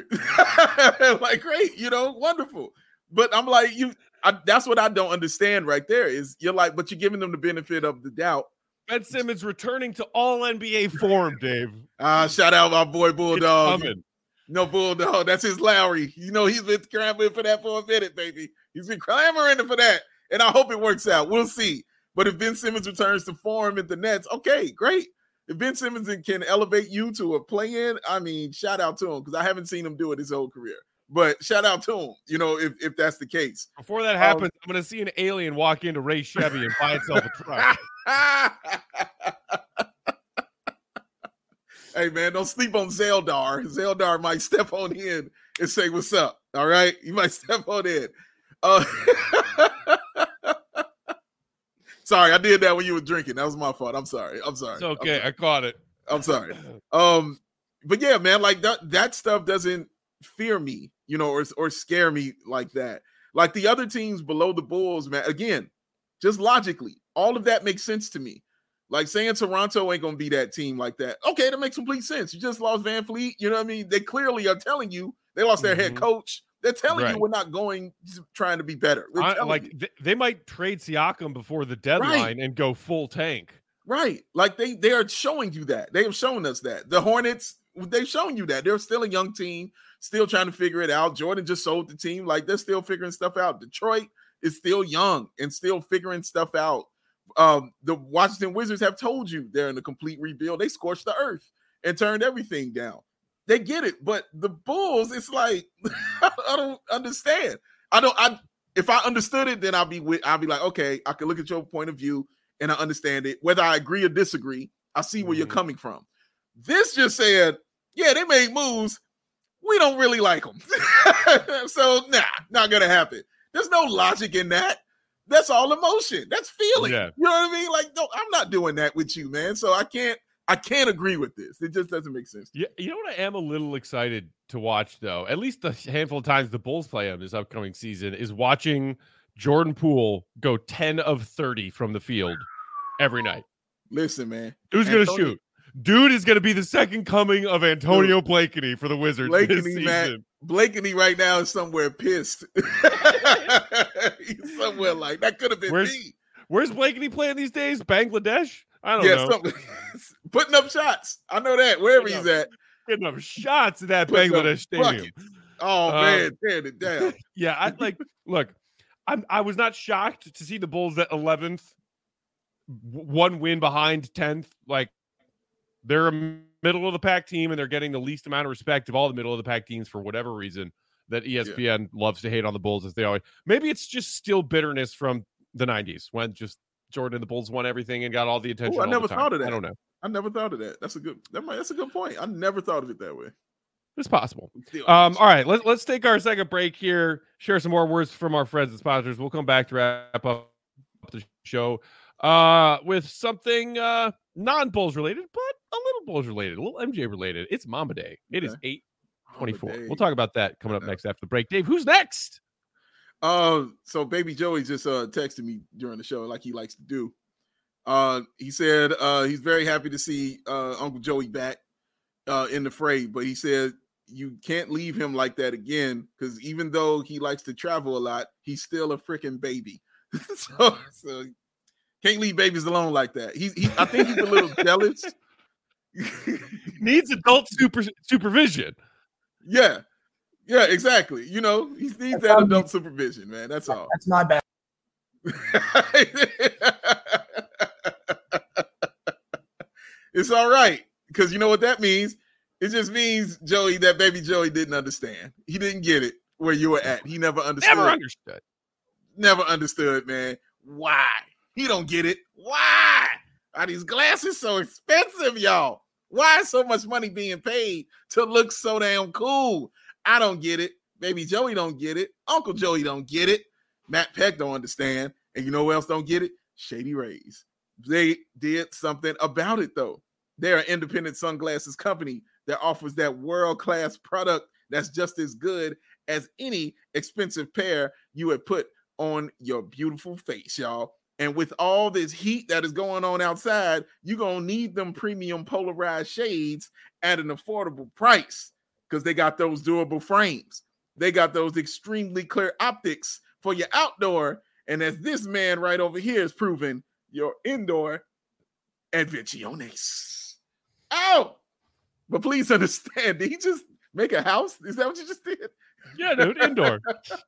Like, great, you know, wonderful. But I'm like, you I, that's what I don't understand right there is you're like, but you're giving them the benefit of the doubt. Ben Simmons returning to all N B A form, Dave. Uh, shout out my boy Bulldog. No, Bulldog, that's his Lowry. You know, he's been clamoring for that for a minute, baby. He's been clamoring for that. And I hope it works out. We'll see. But if Ben Simmons returns to form at the Nets, okay, great. If Ben Simmons can elevate you to a play-in, I mean, shout out to him because I haven't seen him do it his whole career. But shout out to him, you know, if, if that's the case. Before that happens, um, I'm going to see an alien walk into Ray Chevy and buy itself a truck. Hey, man, don't sleep on Zeldar. Zeldar might step on in and say, what's up? All right? You might step on in. Uh, sorry, I did that when you were drinking. That was my fault. I'm sorry. I'm sorry. It's okay. Sorry. I caught it. I'm sorry. Um, but, yeah, man, like that, that stuff doesn't fear me, you know, or, or scare me like that. Like the other teams below the Bulls, man, again, just logically, all of that makes sense to me. Like saying Toronto ain't gonna be that team like that. Okay, that makes complete sense. You just lost Van Fleet. You know what I mean? They clearly are telling you they lost their mm-hmm. head coach. They're telling right. you we're not going trying to be better. I, like th- they might trade Siakam before the deadline right. and go full tank. Right. Like they they are showing you that. They have shown us that. The Hornets, they've shown you that. They're still a young team, still trying to figure it out. Jordan just sold the team. Like they're still figuring stuff out. Detroit is still young and still figuring stuff out. Um, the Washington Wizards have told you they're in a complete rebuild. They scorched the earth and turned everything down. They get it, but the Bulls, it's like I don't understand. I don't. I if I understood it, then I'll be with. I'll be like, okay, I can look at your point of view and I understand it. Whether I agree or disagree, I see where mm-hmm. you're coming from. This just said, yeah, they made moves. We don't really like them, so nah, not gonna happen. There's no logic in that. That's all emotion. That's feeling. Yeah. You know what I mean? Like, no, I'm not doing that with you, man. So I can't, I can't agree with this. It just doesn't make sense. Yeah, you know what I am a little excited to watch, though, at least the handful of times the Bulls play him this upcoming season, is watching Jordan Poole go ten of thirty from the field every night. Listen, man. Who's going to shoot? Dude is going to be the second coming of Antonio Blakeney for the Wizards Blakeney, this season. Man, Blakeney right now is somewhere pissed. He's somewhere like, that could have been where's, me. Where's Blakeney playing these days? Bangladesh? I don't yeah, know. Putting up shots. I know that. Wherever putting he's up, at. Putting up shots in that putting Bangladesh stadium. Buckets. Oh, um, man. Tearing it down. Yeah, I like, look, I'm, I was not shocked to see the Bulls at eleventh, one win behind tenth. Like, they're a middle of the pack team, and they're getting the least amount of respect of all the middle of the pack teams for whatever reason that E S P N yeah. loves to hate on the Bulls as they always. Maybe it's just still bitterness from the nineties when just Jordan and the Bulls won everything and got all the attention. Ooh, I all never the time. thought of that. I don't know. I never thought of that. That's a good. That might, that's a good point. I never thought of it that way. It's possible. Um, all right, let's let's take our second break here. Share some more words from our friends and sponsors. We'll come back to wrap up the show uh, with something uh, non-Bulls related, but a little Bulls related, a little M J related. It's Mamba Day. It okay. is eight twenty-four. We'll talk about that coming up next after the break. Dave, who's next? Uh, so Baby Joey just uh, texted me during the show, like he likes to do. Uh, he said uh, he's very happy to see uh, Uncle Joey back uh, in the fray, but he said you can't leave him like that again because even though he likes to travel a lot, he's still a freaking baby. so, so can't leave babies alone like that. He's, he, I think he's a little jealous. Needs adult super supervision. Yeah, yeah, exactly. You know, he needs that adult supervision, man. That's all. That's my bad. It's all right because you know what that means. It just means Joey, that Baby Joey didn't understand. He didn't get it where you were at. He never understood. Never understood. Never understood, man. Why? He don't get it. Why are these glasses so expensive, y'all? Why is so much money being paid to look so damn cool? I don't get it. Baby Joey don't get it. Uncle Joey don't get it. Matt Peck don't understand. And you know who else don't get it? Shady Rays. They did something about it, though. They're an independent sunglasses company that offers that world-class product that's just as good as any expensive pair you would put on your beautiful face, y'all. And with all this heat that is going on outside, you're going to need them premium polarized shades at an affordable price because they got those durable frames. They got those extremely clear optics for your outdoor. And as this man right over here is proving, your indoor advenciones. Oh, but please understand, did he just make a house? Is that what you just did? Yeah, dude, indoor.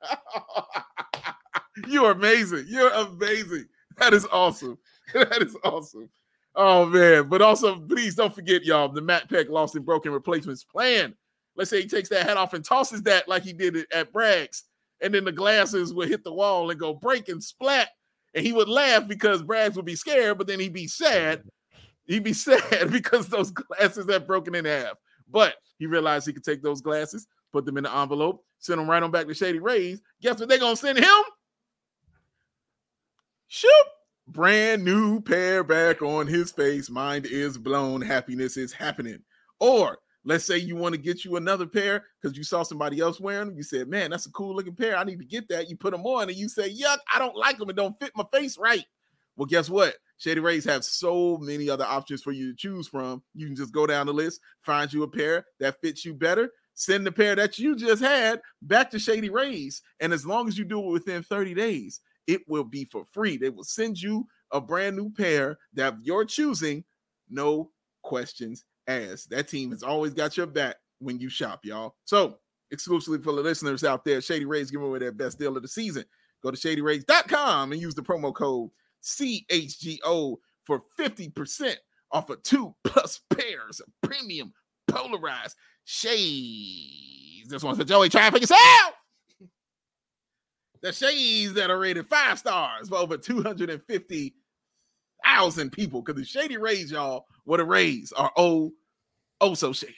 You're amazing. You're amazing. That is awesome. That is awesome. Oh, man. But also, please don't forget, y'all, the Matt Peck lost and broken replacements plan. Let's say he takes that hat off and tosses that like he did it at Bragg's, and then the glasses would hit the wall and go break and splat. And he would laugh because Bragg's would be scared, but then he'd be sad. He'd be sad because those glasses had broken in half. But he realized he could take those glasses, put them in the envelope, send them right on back to Shady Rays. Guess what they're going to send him? Shoop. Brand new pair back on his face. Mind is blown. Happiness is happening. Or let's say you want to get you another pair because you saw somebody else wearing them. You said, man, that's a cool looking pair. I need to get that. You put them on and you say, yuck, I don't like them. It don't fit my face right. Well, guess what? Shady Rays have so many other options for you to choose from. You can just go down the list, find you a pair that fits you better, send the pair that you just had back to Shady Rays. And as long as you do it within thirty days, it will be for free. They will send you a brand new pair that you're choosing, no questions asked. That team has always got your back when you shop, y'all. So exclusively for the listeners out there, Shady Rays giving away their best deal of the season. Go to shady rays dot com and use the promo code C H G O for fifty percent off of two plus pairs of premium polarized shades. This one's for Joey. Try it for yourself. The shades that are rated five stars for over two hundred fifty thousand people. Because the Shady Rays, y'all, what the Rays are oh, oh so shady.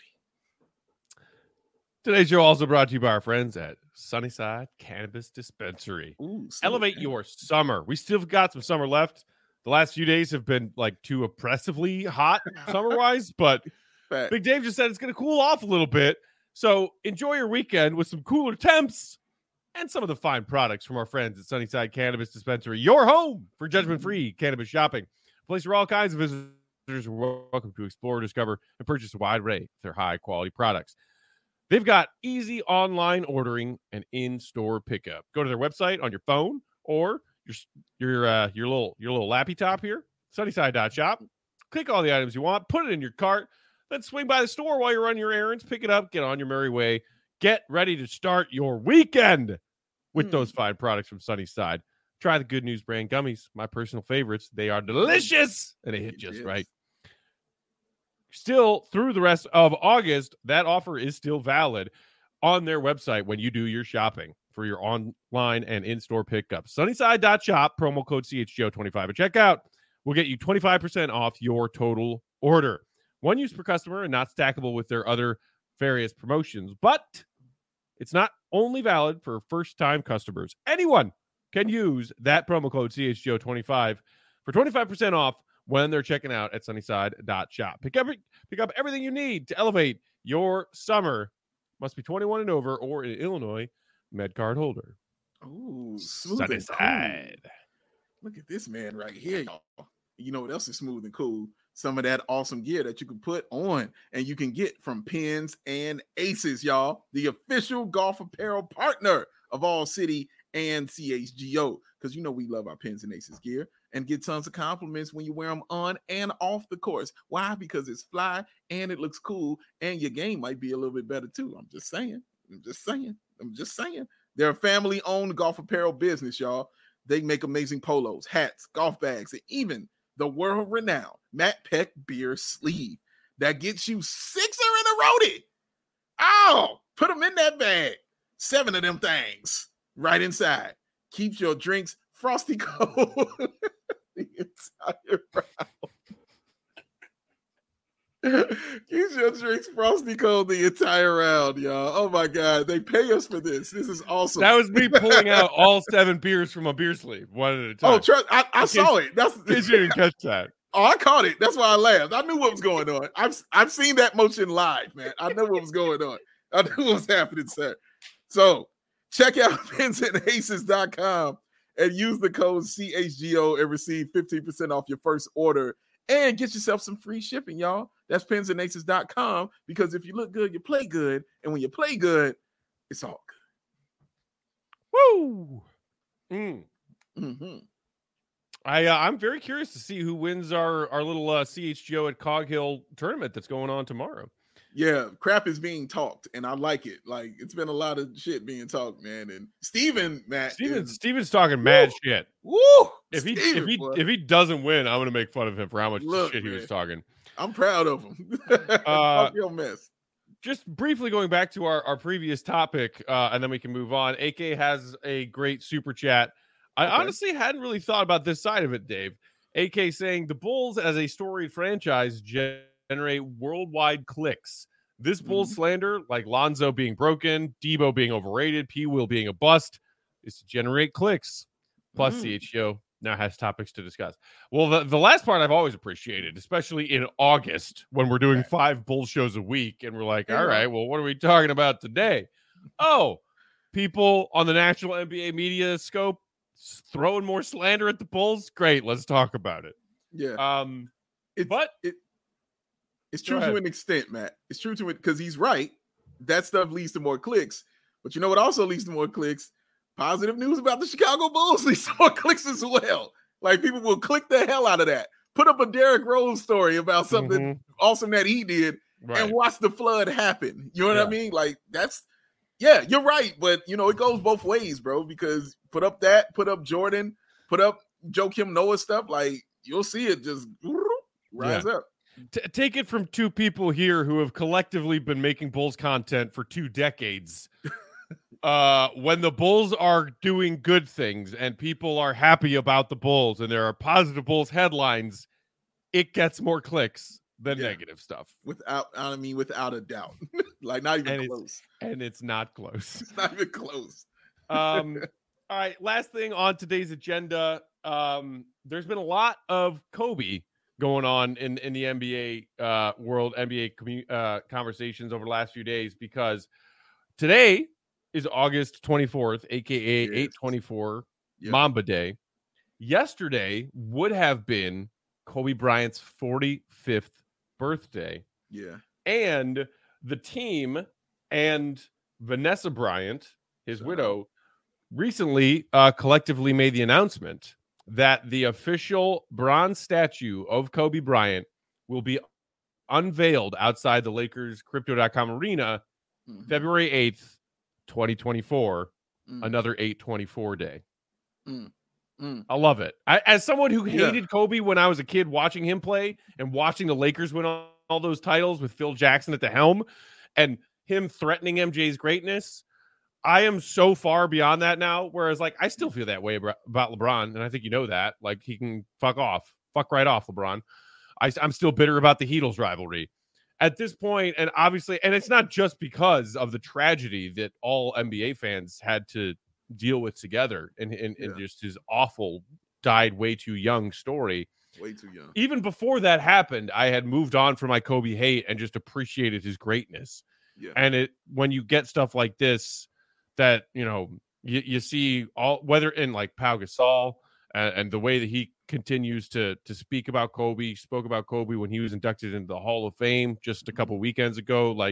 Today's show also brought to you by our friends at Sunnyside Cannabis Dispensary. Ooh, Elevate man. your summer. We still got some summer left. The last few days have been like too oppressively hot summer-wise, but Fact. Big Dave just said it's going to cool off a little bit. So enjoy your weekend with some cooler temps and some of the fine products from our friends at Sunnyside Cannabis Dispensary, your home for judgment-free cannabis shopping. A place where all kinds of visitors are welcome to explore, discover, and purchase a wide array of their high-quality products. They've got easy online ordering and in-store pickup. Go to their website on your phone or your your uh, your little your little lappy top here, sunnyside dot shop. Click all the items you want, put it in your cart, then swing by the store while you're on your errands, pick it up, get on your merry way. Get ready to start your weekend with Mm. those fine products from Sunnyside. Try the Good News brand gummies, my personal favorites. They are delicious, and they hit It just is. right. Still, through the rest of August, that offer is still valid on their website when you do your shopping for your online and in-store pickup. Sunnyside dot shop, promo code C H G O twenty-five at checkout will get you twenty-five percent off your total order. One use per customer and not stackable with their other various promotions. But it's not only valid for first-time customers. Anyone can use that promo code C H G O twenty-five for twenty-five percent off when they're checking out at Sunnyside dot shop. Pick up, pick up everything you need to elevate your summer. Must be twenty-one and over or an Illinois med card holder. Ooh, smooth and Sunnyside. cool. Look at this man right here, y'all. You know what else is smooth and cool? Some of that awesome gear that you can put on and you can get from Pins and Aces, y'all. The official golf apparel partner of All City and C H G O. Because you know we love our Pins and Aces gear and get tons of compliments when you wear them on and off the course. Why? Because it's fly and it looks cool and your game might be a little bit better too. I'm just saying. I'm just saying. I'm just saying. They're a family-owned golf apparel business, y'all. They make amazing polos, hats, golf bags, and even the world-renowned Matt Peck beer sleeve that gets you sixer in a roadie. Oh, put them in that bag. Seven of them things right inside. Keeps your drinks frosty cold the entire round. Keeps your drinks frosty cold the entire round, y'all. Oh my God, they pay us for this. This is awesome. That was me pulling out all seven beers from a beer sleeve, one at a time. Oh, trust, I, I saw it. That's In case you didn't catch that. Oh, I caught it. That's why I laughed. I knew what was going on. I've I've seen that motion live, man. I knew what was going on. I knew what was happening, sir. So check out pins and aces dot com and use the code C H G O and receive fifteen percent off your first order and get yourself some free shipping, y'all. That's pins and aces dot com because if you look good, you play good. And when you play good, it's all good. Woo! Mm. Mm-hmm. I, uh, I'm very curious to see who wins our, our little uh, C H G O at Cog Hill tournament that's going on tomorrow. Yeah, crap is being talked, and I like it. Like, it's been a lot of shit being talked, man. And Steven, Matt. Steven, is, Steven's talking mad woo, shit. Woo! If he Steven, if he boy. if he doesn't win, I'm gonna make fun of him for how much Look, shit he man, was talking. I'm proud of him. Uh, Talk your mess. Just briefly going back to our, our previous topic, uh, and then we can move on. A K has a great super chat. I Okay. honestly hadn't really thought about this side of it, Dave. A K saying the Bulls as a storied franchise generate worldwide clicks. This Bulls Mhm. slander, like Lonzo being broken, Debo being overrated, P. Will being a bust, is to generate clicks. Plus, Mm. C H G O now has topics to discuss. Well, the, the last part I've always appreciated, especially in August when we're doing five Bulls shows a week, and we're like, Yeah. all right, well, what are we talking about today? Oh, people on the national N B A media scope throwing more slander at the Bulls. Great, let's talk about it. Yeah. Um, It's, but it, it's Go true to ahead. an extent, Matt. It's true to it because he's right. That stuff leads to more clicks. But you know what also leads to more clicks? Positive news about the Chicago Bulls leads to more clicks as well. Like, people will click the hell out of that. Put up a Derrick Rose story about something mhm, awesome that he did right. and watch the flood happen. You know what Yeah. I mean? Like, that's, yeah, you're right. But, you know, it goes both ways, bro, because put up that, put up Jordan, put up Joakim Noah stuff. Like, you'll see it just rise up. T- take it from two people here who have collectively been making Bulls content for two decades. uh, when the Bulls are doing good things and people are happy about the Bulls and there are positive Bulls headlines, it gets more clicks than Yeah. negative stuff. Without, I mean, without a doubt. Like, not even And it's- close. And it's not close. It's not even close. Um, all right, last thing on today's agenda. Um, there's been a lot of Kobe going on in, in the N B A uh, world, N B A commu- uh, conversations over the last few days, because today is August twenty-fourth, aka Yes. eight twenty-four Yep. Mamba Day. Yesterday would have been Kobe Bryant's forty-fifth birthday, Yeah. and the team and Vanessa Bryant, his Shout widow, recently uh, collectively made the announcement that the official bronze statue of Kobe Bryant will be unveiled outside the Lakers Crypto dot com arena Mhm. February eighth, twenty twenty-four, mm. another eight twenty-four day. Mm. Mm. I love it. I, as someone who hated yeah. Kobe when I was a kid watching him play and watching the Lakers win all, all those titles with Phil Jackson at the helm and him threatening M J's greatness, I am so far beyond that now. Whereas, like, I still feel that way about LeBron, and I think you know that. Like, he can fuck off. Fuck right off, LeBron. I, I'm still bitter about the Heatles rivalry. At this point, and obviously, and it's not just because of the tragedy that all N B A fans had to deal with together and, and, yeah. and just his awful died way too young story. Way too young. Even before that happened, I had moved on from my Kobe hate and just appreciated his greatness. Yeah. And it when you get stuff like this that, you know, you, you see all whether in like Pau Gasol and, and the way that he continues to to speak about Kobe, spoke about Kobe when he was inducted into the Hall of Fame just a couple mm-hmm. weekends ago. Like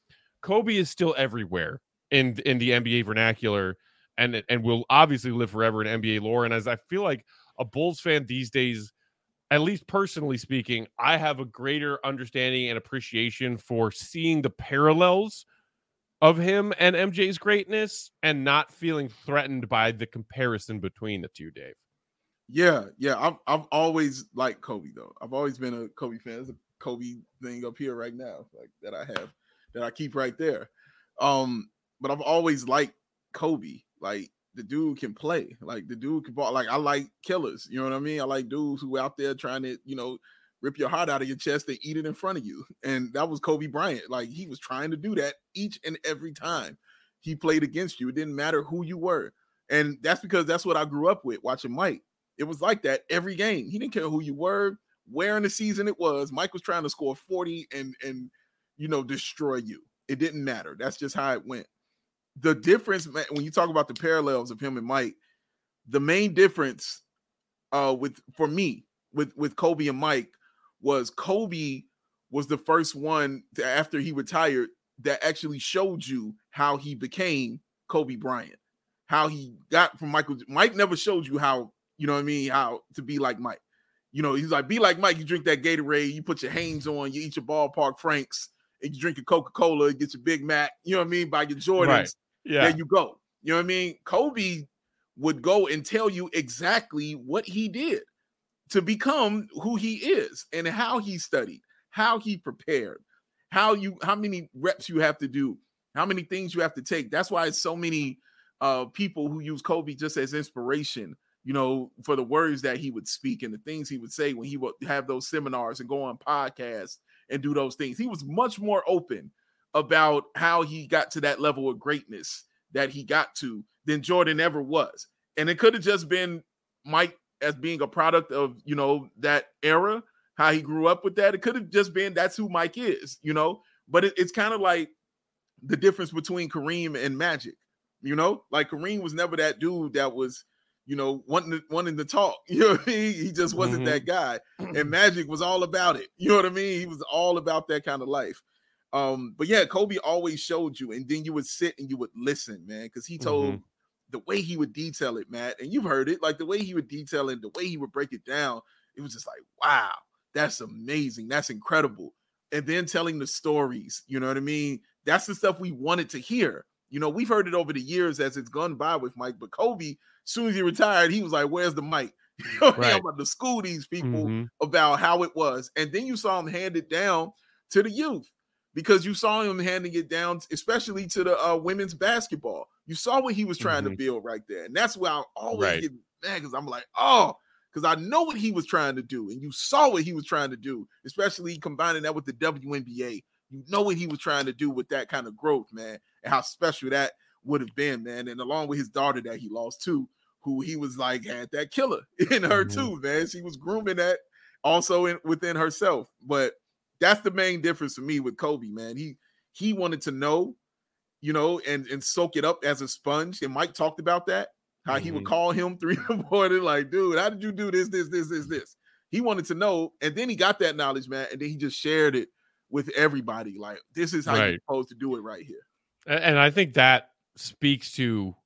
Kobe is still everywhere in in the N B A vernacular. And and will obviously live forever in N B A lore. And as I feel like a Bulls fan these days, at least personally speaking, I have a greater understanding and appreciation for seeing the parallels of him and M J's greatness and not feeling threatened by the comparison between the two, Dave. Yeah, yeah. I've, I've always liked Kobe, though. I've always been a Kobe fan. There's a Kobe thing up here right now, like that I have, that I keep right there. Um, but I've always liked Kobe. Like the dude can play, like the dude can ball. Like I like killers, you know what I mean? I like dudes who out there trying to, you know, rip your heart out of your chest and eat it in front of you. And that was Kobe Bryant. Like he was trying to do that each and every time he played against you. It didn't matter who you were. And that's because that's what I grew up with watching Mike. It was like that every game. He didn't care who you were, where in the season it was. Mike was trying to score forty and, and you know, destroy you. It didn't matter. That's just how it went. The difference, man, when you talk about the parallels of him and Mike, the main difference uh, with for me with, with Kobe and Mike was Kobe was the first one to, after he retired that actually showed you how he became Kobe Bryant, how he got from Michael. Mike never showed you how, you know what I mean, how to be like Mike. You know, he's like, be like Mike. You drink that Gatorade, you put your Hanes on, you eat your Ballpark Franks, and you drink your Coca-Cola, you get your Big Mac, you know what I mean, buy your Jordans. Right. Yeah. There you go. You know what I mean? Kobe would go and tell you exactly what he did to become who he is and how he studied, how he prepared, how you how many reps you have to do, how many things you have to take. That's why it's so many uh, people who use Kobe just as inspiration, you know, for the words that he would speak and the things he would say when he would have those seminars and go on podcasts and do those things. He was much more open about how he got to that level of greatness that he got to than Jordan ever was. And it could have just been Mike as being a product of, you know, that era, how he grew up with that. It could have just been that's who Mike is, you know, but it, it's kind of like the difference between Kareem and Magic, you know, like Kareem was never that dude that was, you know, wanting to, wanting to talk, you know what I mean? He just wasn't mm-hmm. that guy. And Magic was all about it. You know what I mean? He was all about that kind of life. Um, but yeah, Kobe always showed you, and then you would sit and you would listen, man, because he told mm-hmm. the way he would detail it, Matt, and you've heard it, like the way he would detail it, the way he would break it down, it was just like, wow, that's amazing, that's incredible. And then telling the stories, you know what I mean? That's the stuff we wanted to hear. You know, we've heard it over the years as it's gone by with Mike, but Kobe, as soon as he retired, he was like, where's the mic? You know what I mean? I'm about to school these people mm-hmm. about how it was. And then you saw him hand it down to the youth. Because you saw him handing it down, especially to the uh, women's basketball. You saw what he was trying mm-hmm. to build right there. And that's why I always right. get mad because I'm like, oh, because I know what he was trying to do. And you saw what he was trying to do, especially combining that with the W N B A. You know what he was trying to do with that kind of growth, man, and how special that would have been, man. And along with his daughter that he lost too, who he was like, had that killer in her mm-hmm. too, man. She was grooming that also in, within herself. But that's the main difference for me with Kobe, man. He he wanted to know, you know, and, and soak it up as a sponge. And Mike talked about that, how mm-hmm. he would call him three in the morning, like, dude, how did you do this, this, this, this, this? He wanted to know, and then he got that knowledge, man, and then he just shared it with everybody. Like, this is how right. you're supposed to do it right here. And I think that speaks to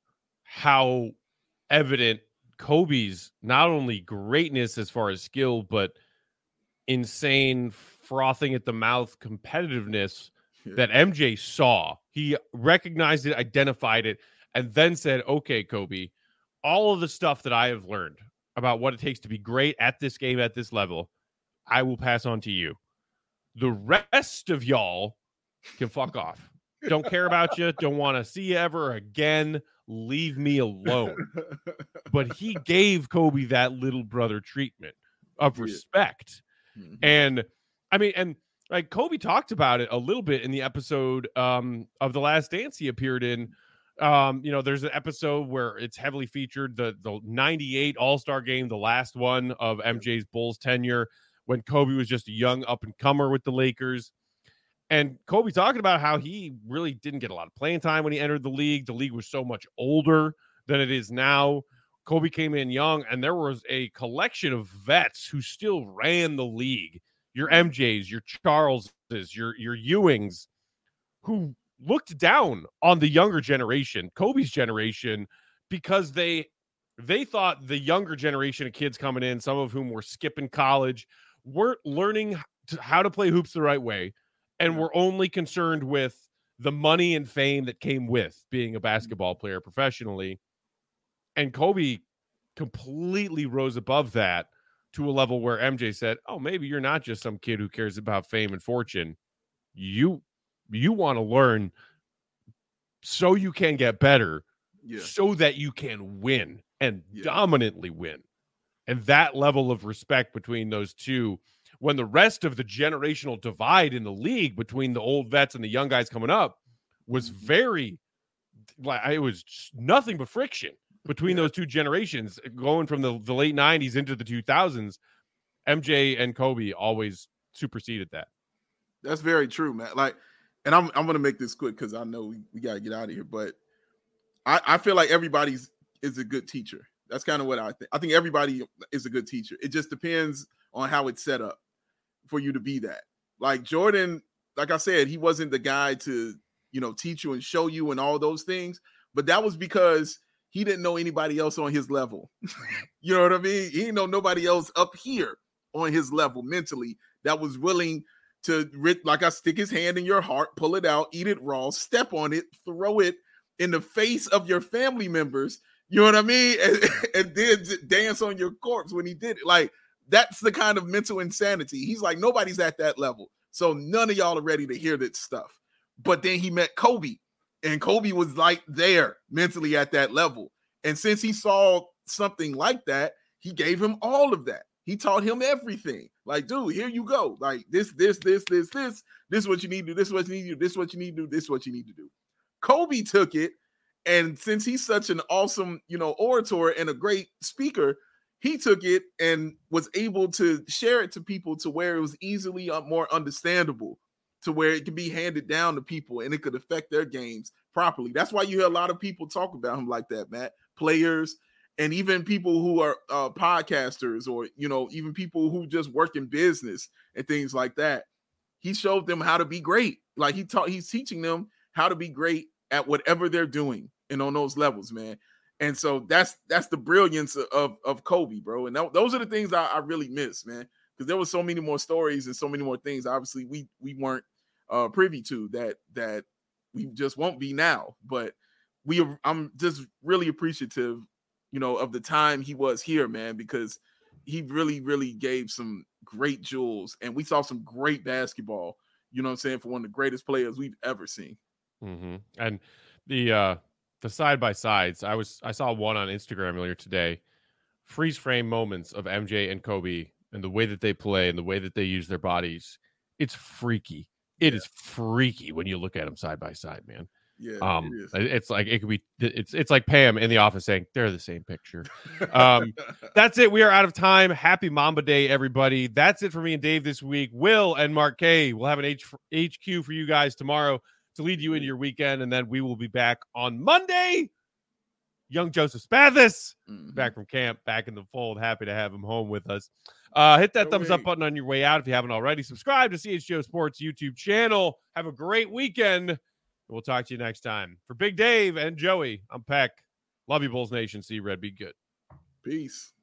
how evident Kobe's not only greatness as far as skill, but insane frothing at the mouth competitiveness yeah. that M J saw. He recognized it, identified it, and then said, okay, Kobe, all of the stuff that I have learned about what it takes to be great at this game, at this level, I will pass on to you. The rest of y'all can fuck off. Don't care about you. Don't want to see you ever again. Leave me alone. But he gave Kobe that little brother treatment of respect. Mm-hmm. And I mean, and like Kobe talked about it a little bit in the episode um, of The Last Dance he appeared in. Um, you know, there's an episode where it's heavily featured, the the ninety-eight All-Star game, the last one of M J's Bulls tenure, when Kobe was just a young up-and-comer with the Lakers. And Kobe talking about how he really didn't get a lot of playing time when he entered the league. The league was so much older than it is now. Kobe came in young, and there was a collection of vets who still ran the league. Your M Js, your Charleses, your, your Ewings, who looked down on the younger generation, Kobe's generation, because they they thought the younger generation of kids coming in, some of whom were skipping college, weren't learning to, how to play hoops the right way, and were only concerned with the money and fame that came with being a basketball player professionally. And Kobe completely rose above that to a level where M J said, oh, maybe you're not just some kid who cares about fame and fortune. You you want to learn so you can get better, yeah. so that you can win and yeah. dominantly win. And that level of respect between those two, when the rest of the generational divide in the league between the old vets and the young guys coming up was very, like, it was nothing but friction between yeah. those two generations, going from the, the late nineties into the two thousands. M J and Kobe always superseded that. That's very true, man. Like, and I'm I'm gonna make this quick because I know we, we gotta get out of here. But I, I feel like everybody's is a good teacher. That's kind of what I think. I think everybody is a good teacher. It just depends on how it's set up for you to be that. Like Jordan, like I said, he wasn't the guy to, you know, teach you and show you and all those things. But that was because he didn't know anybody else on his level. You know what I mean? He didn't know nobody else up here on his level mentally that was willing to, like I stick his hand in your heart, pull it out, eat it raw, step on it, throw it in the face of your family members. You know what I mean? And, and then dance on your corpse when he did it. Like, that's the kind of mental insanity. He's like, nobody's at that level. So none of y'all are ready to hear that stuff. But then he met Kobe, and Kobe was like there mentally at that level. And since he saw something like that, he gave him all of that. He taught him everything. Like, dude, here you go. Like this, this, this, this, this, this is what you need to do. This is what you need to do. This is what you need to do. This is what you need to do. Kobe took it. And since he's such an awesome, you know, orator and a great speaker, he took it and was able to share it to people to where it was easily more understandable, to where it could be handed down to people and it could affect their games properly. That's why you hear a lot of people talk about him like that, Matt. Players and even people who are uh, podcasters, or, you know, even people who just work in business and things like that. He showed them how to be great. Like he taught, he's teaching them how to be great at whatever they're doing and on those levels, man. And so that's that's the brilliance of, of Kobe, bro. And that, those are the things I, I really miss, man, because there were so many more stories and so many more things, obviously, we we weren't uh, privy to that that we just won't be now. But we I'm just really appreciative, you know, of the time he was here, man, because he really, really gave some great jewels. And we saw some great basketball, you know what I'm saying, for one of the greatest players we've ever seen. Mm-hmm. And the uh the side by sides, I was I saw one on Instagram earlier today, freeze frame moments of M J and Kobe and the way that they play and the way that they use their bodies. It's freaky. It yeah. is freaky when you look at them side by side, man. Yeah, um, it is. It's like it could be. It's it's like Pam in the office saying they're the same picture. Um, that's it. We are out of time. Happy Mamba Day, everybody. That's it for me and Dave this week. Will and Mark K will have an H, H Q for you guys tomorrow to lead you into your weekend, and then we will be back on Monday. Young Joseph Spathis, mm-hmm. back from camp, back in the fold. Happy to have him home with us. Uh, hit that no thumbs way. up button on your way out if you haven't already. Subscribe to C H G O Sports YouTube channel. Have a great weekend. And we'll talk to you next time. For Big Dave and Joey, I'm Peck. Love you, Bulls Nation. See you, Red. Be good. Peace.